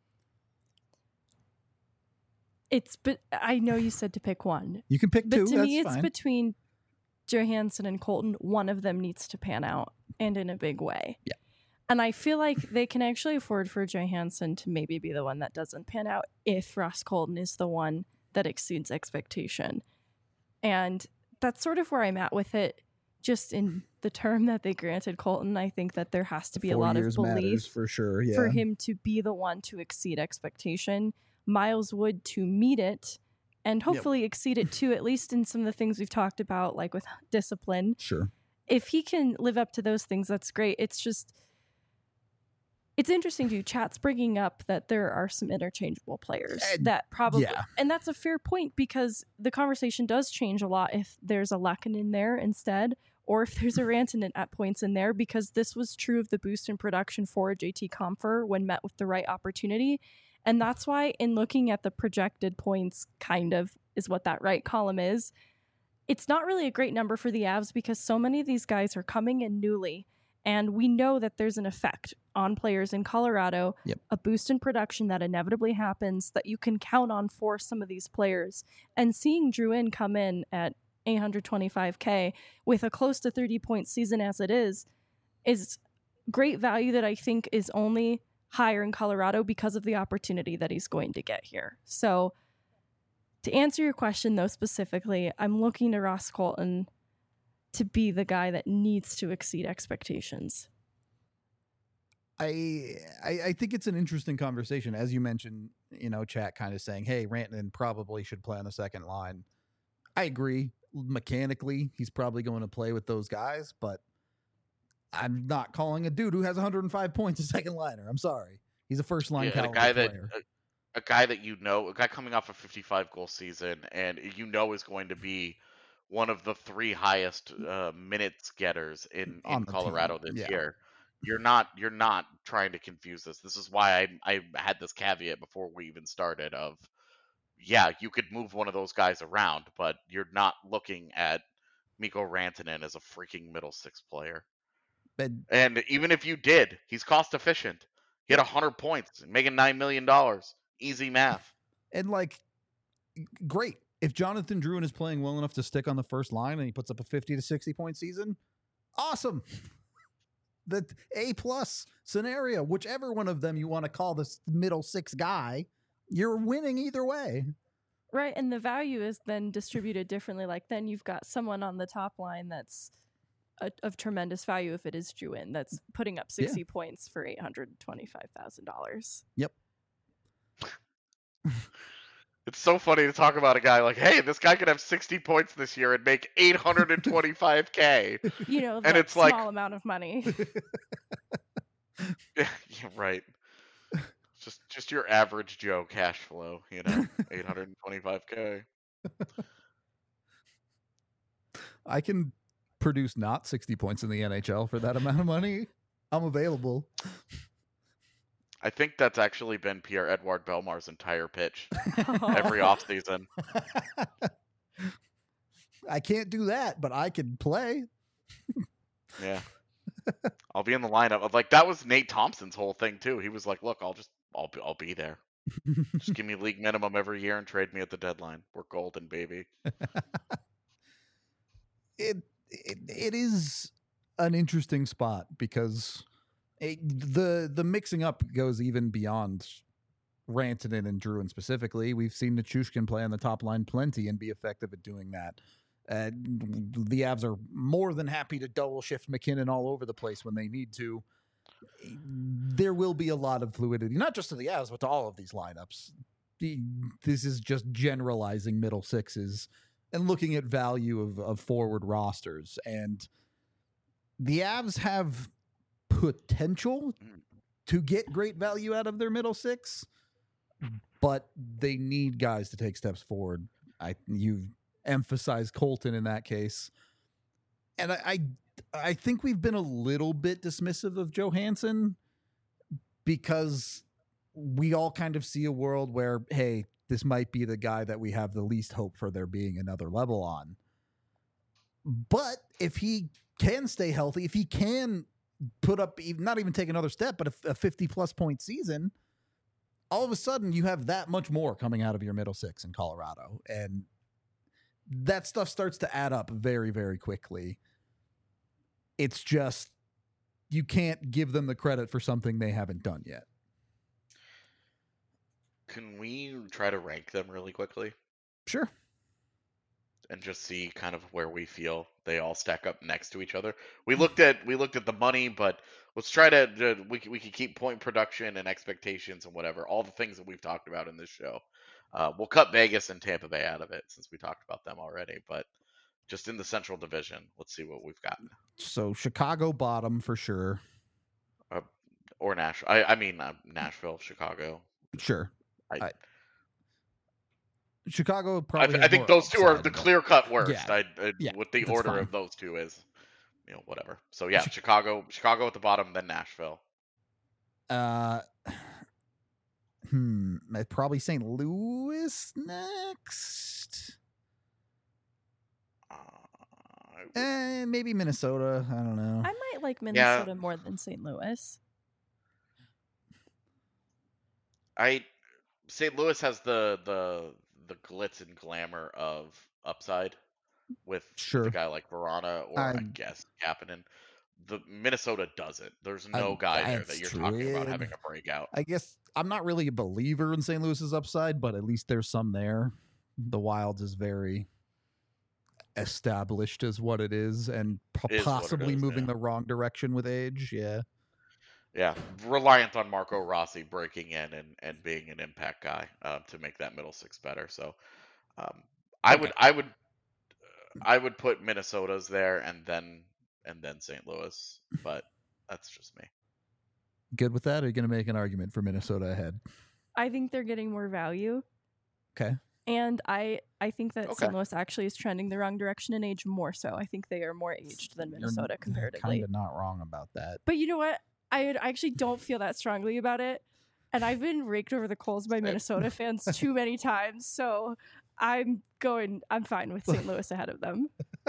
It's but I know you said to pick one. You can pick but two. But to that's me, it's fine. between Johansson and Colton. One of them needs to pan out, and in a big way. Yeah. And I feel like they can actually afford for Johansson to maybe be the one that doesn't pan out if Ross Colton is the one that exceeds expectation. And that's sort of where I'm at with it. Just in the term that they granted Colton, I think that there has to be Four a lot of years belief matters for sure. Yeah. for him to be the one to exceed expectation. Miles Wood to meet it and hopefully yep. exceed it too, at least in some of the things we've talked about, like with discipline. Sure. If he can live up to those things, that's great. It's just, it's interesting too. Chat's bringing up that there are some interchangeable players uh, that probably, yeah. and that's a fair point because the conversation does change a lot if there's a Lehkonen in there instead, or if there's a Rantanen at points in there, because this was true of the boost in production for J T Compher when met with the right opportunity. And that's why in looking at the projected points kind of is what that right column is. It's not really a great number for the Avs because so many of these guys are coming in newly, and we know that there's an effect on players in Colorado, Yep. a boost in production that inevitably happens that you can count on for some of these players. And seeing Drouin come in at eight hundred twenty-five K with a close to thirty-point season as it is, is great value that I think is only higher in Colorado because of the opportunity that he's going to get here. So to answer your question, though, specifically, I'm looking to Ross Colton to be the guy that needs to exceed expectations. I, I I think it's an interesting conversation. As you mentioned, you know, chat kind of saying, hey, Rantanen probably should play on the second line. I agree. Mechanically, he's probably going to play with those guys, but I'm not calling a dude who has one hundred five points a second liner. I'm sorry. He's a first line Yeah, a caliber guy that player. a, a guy that you know, a guy coming off a fifty-five goal season, and you know is going to be one of the three highest uh, minutes getters in, On in the Colorado team, this yeah. year. You're not you're not trying to confuse this. This is why I I had this caveat before we even started of, yeah, you could move one of those guys around, but you're not looking at Mikko Rantanen as a freaking middle six player. But And even if you did, he's cost efficient. He had one hundred points, making nine million dollars. Easy math. and like, great. If Jonathan Drouin is playing well enough to stick on the first line and he puts up a fifty to sixty point season, awesome. The A plus scenario, whichever one of them you want to call this middle six guy, you're winning either way. Right, and the value is then distributed differently. Like then you've got someone on the top line that's a, of tremendous value if it is Drouin that's putting up sixty yeah. points for eight hundred twenty-five thousand dollars. Yep. It's so funny to talk about a guy like, hey, this guy could have sixty points this year and make eight hundred twenty-five K. You know, that and it's small like, amount of money. yeah, right. Just just your average Joe cash flow, you know, eight hundred twenty-five K. I can produce not sixty points in the N H L for that amount of money. I'm available. I think that's actually been Pierre-Edouard Belmar's entire pitch every offseason. I can't do that, but I can play. Yeah. I'll be in the lineup. Like that was Nate Thompson's whole thing too. He was like, "Look, I'll just I'll be, I'll be there. Just give me league minimum every year and trade me at the deadline. We're golden, baby." It it it is an interesting spot because it, the the mixing up goes even beyond Rantanen and Drouin specifically. We've seen Nichushkin play on the top line plenty and be effective at doing that. Uh, the Avs are more than happy to double shift McKinnon all over the place when they need to. There will be a lot of fluidity, not just to the Avs, but to all of these lineups. This is just generalizing middle sixes and looking at value of, of forward rosters. And the Avs have potential to get great value out of their middle six, but they need guys to take steps forward. I you've emphasized Colton in that case. And I, I I think we've been a little bit dismissive of Johansson because we all kind of see a world where, hey, this might be the guy that we have the least hope for there being another level on. But if he can stay healthy, if he can put up, not even take another step, but a fifty plus point season, all of a sudden you have that much more coming out of your middle six in Colorado. And that stuff starts to add up very, very quickly. It's just, you can't give them the credit for something they haven't done yet. Can we try to rank them really quickly? Sure. And just see kind of where we feel they all stack up next to each other. We looked at we looked at the money, but let's try to uh, we we can keep point production and expectations and whatever, all the things that we've talked about in this show. Uh, we'll cut Vegas and Tampa Bay out of it since we talked about them already, but just in the Central Division, let's see what we've got. So Chicago bottom for sure, uh, or Nashville. I, I mean uh, Nashville, Chicago. Sure. I, I, Chicago probably. I, I think those two are the clear cut worst. Yeah, I, I, yeah, what the order fine. of those two is, you know, whatever. So yeah, Chicago, Chicago at the bottom, then Nashville. Uh, hmm. Probably Saint Louis next. Eh, maybe Minnesota. I don't know. I might like Minnesota yeah. more than Saint Louis. I Saint Louis has the the the glitz and glamour of upside with, sure. with a guy like Verana or I, I guess Kapanen. The Minnesota doesn't. There's no I, guy there that you're true. talking about having a breakout. I guess I'm not really a believer in Saint Louis's upside, but at least there's some there. The Wilds is very established as what it is, and p- is possibly is, moving yeah. the wrong direction with age. Yeah. Yeah, reliant on Marco Rossi breaking in and, and being an impact guy uh, to make that middle six better. So, um, I okay. would I would uh, I would put Minnesota's there and then and then Saint Louis, but that's just me. Good with that? Or are you going to make an argument for Minnesota ahead? I think they're getting more value. Okay. And I I think that okay. Saint Louis actually is trending the wrong direction in age more so. I think they are more aged than Minnesota You're comparatively. Kind of not wrong about that. But you know what? I, I actually don't feel that strongly about it. And I've been raked over the coals by Minnesota fans too many times. So I'm going, I'm fine with Saint Louis ahead of them.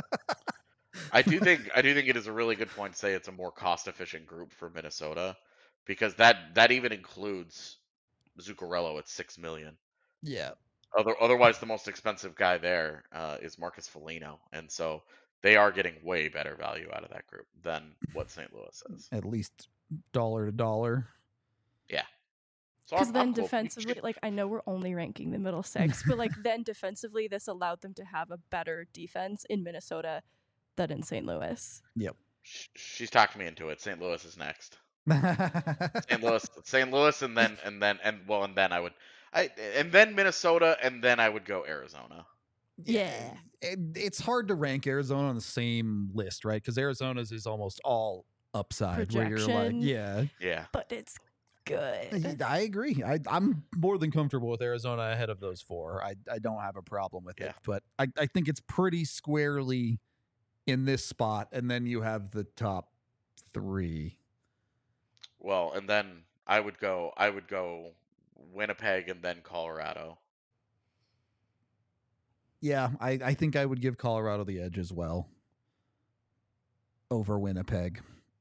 I do think, I do think it is a really good point to say it's a more cost efficient group for Minnesota because that, that even includes Zuccarello at six million. Yeah. Other, otherwise the most expensive guy there uh, is Marcus Foligno. And so they are getting way better value out of that group than what Saint Louis is. At least dollar to dollar. Yeah. Because so then I'm defensively, cool. like I know we're only ranking the middle six, but like then defensively, this allowed them to have a better defense in Minnesota than in Saint Louis. Yep. She's talked me into it. Saint Louis is next. Saint Louis, Saint Louis, and then and then and well, and then I would, I and then Minnesota, and then I would go Arizona. Yeah. It, it's hard to rank Arizona on the same list, right? Because Arizona's is almost all upside. Projection, where you're like, yeah. Yeah. But it's good. I agree. I, I'm more than comfortable with Arizona ahead of those four. I, I don't have a problem with yeah. it. But I, I think it's pretty squarely in this spot. And then you have the top three. Well, and then I would go, I would go Winnipeg and then Colorado. Yeah, I, I think I would give Colorado the edge as well over Winnipeg.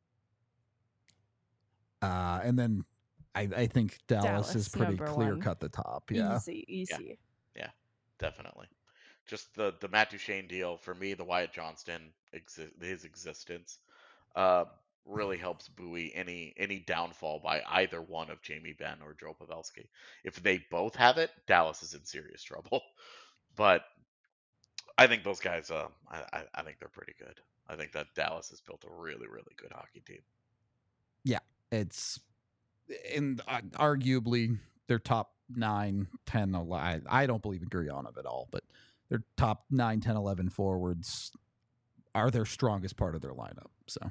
Uh, and then I, I think Dallas, Dallas is pretty clear one. cut the top. Yeah. Easy, easy. Yeah, yeah, definitely. Just the, the Matt Duchene deal, for me, the Wyatt Johnston, exi- his existence, uh, really helps buoy any any downfall by either one of Jamie Benn or Joe Pavelski. If they both have it, Dallas is in serious trouble. But I think those guys, uh, I, I think they're pretty good. I think that Dallas has built a really, really good hockey team. Yeah, it's in uh, arguably their top nine, ten, eleven. I don't believe in Gurionov at all, but their top nine, ten, eleven forwards are their strongest part of their lineup. So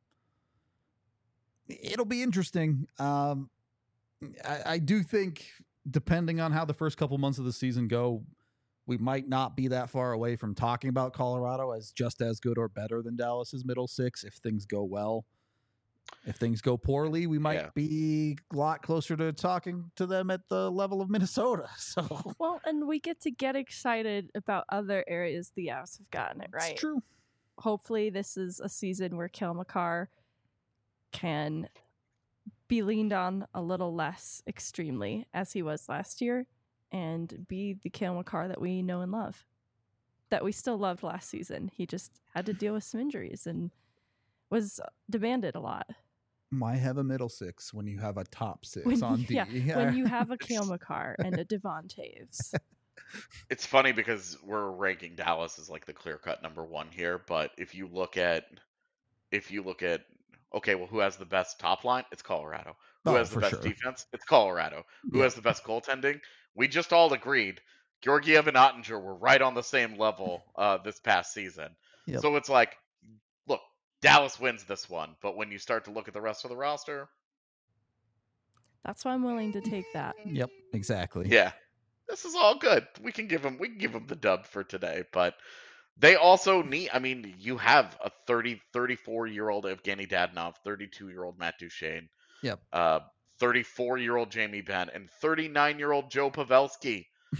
it'll be interesting. Um, I, I do think, depending on how the first couple months of the season go, we might not be that far away from talking about Colorado as just as good or better than Dallas's middle six if things go well. If things go poorly, we might yeah. be a lot closer to talking to them at the level of Minnesota. So well, and we get to get excited about other areas the Avs have gotten it right. It's true. Hopefully, this is a season where Cale Makar can be leaned on a little less extremely as he was last year, and be the Cale Makar that we know and love, that we still loved last season. He just had to deal with some injuries and was demanded a lot. Why have a middle six when you have a top six when, on D? Yeah, when you have a Cale Makar and a Devon Toews. It's funny because we're ranking Dallas as like the clear-cut number one here, but if you look at, if you look at, okay, well, who has the best top line? It's Colorado. Who oh, has the best sure. defense? It's Colorado. Who yeah. has the best goaltending? We just all agreed Georgiev and Ottinger were right on the same level uh, this past season. Yep. So it's like, look, Dallas wins this one, but when you start to look at the rest of the roster, that's why I'm willing to take that. Yep, exactly. Yeah, this is all good. We can give them, we can give them the dub for today, but they also need. I mean, you have a thirty, thirty-four year old Evgeny Dadonov, thirty-two year old Matt Duchene. Yep. Uh, thirty-four year old Jamie Benn and thirty-nine year old Joe Pavelski.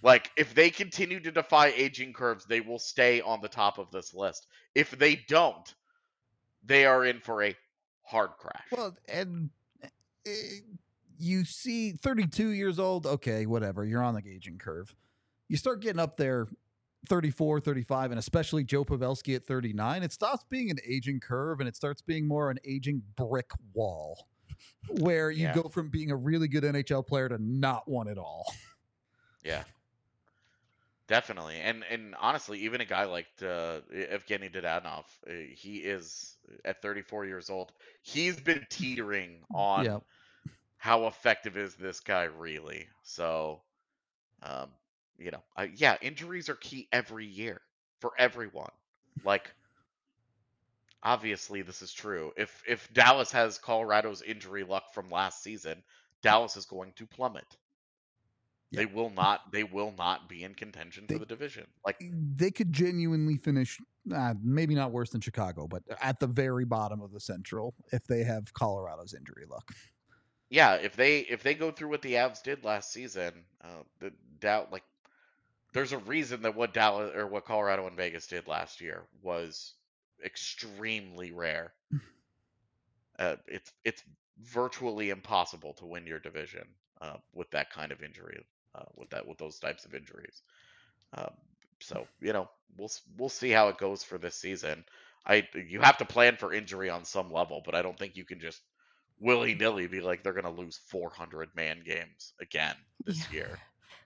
Like, if they continue to defy aging curves, they will stay on the top of this list. If they don't, they are in for a hard crash. Well, and uh, you see thirty-two years old, okay, whatever, you're on the aging curve. You start getting up there thirty-four, thirty-five, and especially Joe Pavelski at thirty-nine, it stops being an aging curve and it starts being more an aging brick wall where you Yeah. go from being a really good N H L player to not one at all. Yeah. Definitely. And and honestly, even a guy like uh, Evgeny Dadonov, uh, he is at thirty-four years old. He's been teetering on Yep. how effective is this guy really. So, um, you know, I, yeah, injuries are key every year for everyone. Like, obviously, this is true. If if Dallas has Colorado's injury luck from last season, Dallas is going to plummet. They Yep. will not. They will not be in contention They- for the division. Like, They could genuinely finish, uh, maybe not worse than Chicago, but at the very bottom of the Central if they have Colorado's injury luck. yeah, if they if they go through what the Avs did last season, uh, the doubt like there's a reason that what Dallas or what Colorado and Vegas did last year was extremely rare. Uh, it's it's virtually impossible to win your division uh, with that kind of injury, uh, with that with those types of injuries. Um, so you know we'll s- we'll see how it goes for this season. I you have to plan for injury on some level, but I don't think you can just willy nilly be like they're going to lose four hundred man games again this Yeah. year.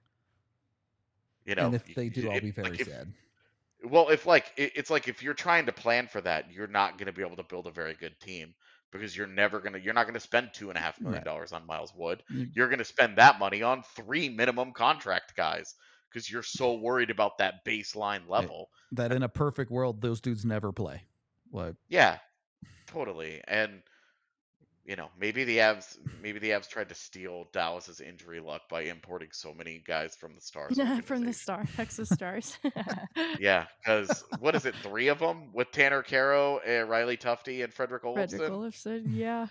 You know, And if you- they do, I'll it- be very like, if- sad. Well, if like it, it's like if you're trying to plan for that, you're not going to be able to build a very good team because you're never gonna you're not going to spend two and a half million Right. dollars on Miles Wood. You- You're going to spend that money on three minimum contract guys because you're so worried about that baseline level. That in a perfect world, those dudes never play. Like, Yeah, totally. And you know, maybe the Avs maybe the Avs tried to steal Dallas's injury luck by importing so many guys from the Stars. From the organization. Star, Texas Stars. Yeah, because what is it? Three of them with Tanner Caro, uh, Riley Tufte, and Frederick Olofsson. Frederick Olofsson, yeah.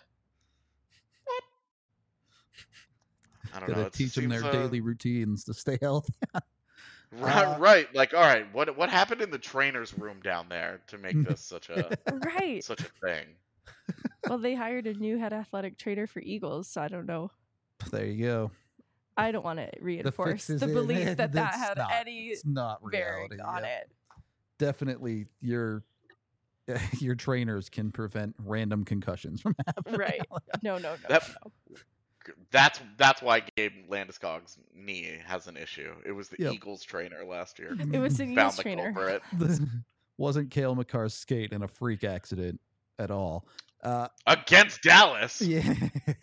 I don't know. gotta It teach them seems, their uh, daily routines to stay healthy. Right, Uh, right. Like, all right, what what happened in the trainer's room down there to make this such a Right. such a thing? Well, they hired a new head athletic trainer for Eagles, so I don't know. There you go. I don't want to reinforce is the in belief it. that that That's had not- any It's not bearing reality. on yeah. it. Definitely, your your trainers can prevent random concussions from happening. Right. No, no, no, That- no. That's that's why Gabe Landeskog's knee has an issue. It was the Yep. Eagles trainer last year. It was the Found Eagles the trainer. culprit. Wasn't Cale McCarr's skate in a freak accident at all? Uh, Against Dallas. yeah.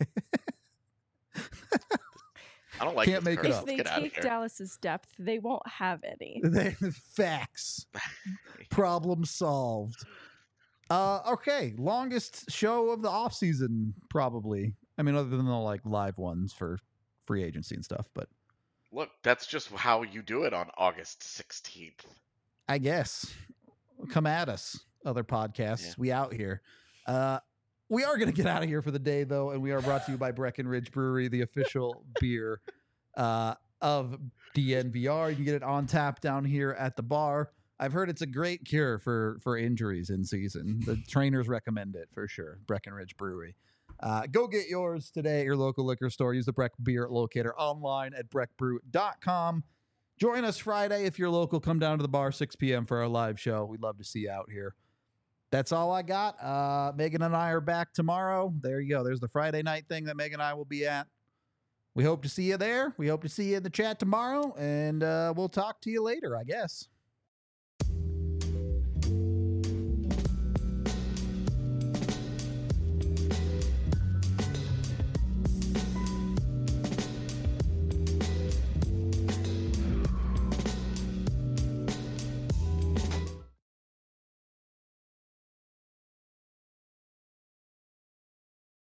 I don't like Can't this make it curse. If up. Let's they get out of take here. Dallas's depth, they won't have any. They- Facts. Problem solved. Uh, okay, longest show of the off season, probably. I mean, other than the like live ones for free agency and stuff, but Look, that's just how you do it on August sixteenth. I guess come at us, other podcasts. Yeah. We out here. Uh, we are going to get out of here for the day, though, and we are brought to you by Breckenridge Brewery, the official beer uh, of D N V R. You can get it on tap down here at the bar. I've heard it's a great cure for for injuries in season. The trainers recommend it for sure. Breckenridge Brewery. Uh, go get yours today at your local liquor store. Use the Breck Beer Locator online at breck brew dot com. Join us Friday if you're local. Come down to the bar six p.m. for our live show. We'd love to see you out here. That's all I got. Uh, Megan and I are back tomorrow. There you go. There's the Friday night thing that Megan and I will be at. We hope to see you there. We hope to see you in the chat tomorrow, and uh, we'll talk to you later, I guess.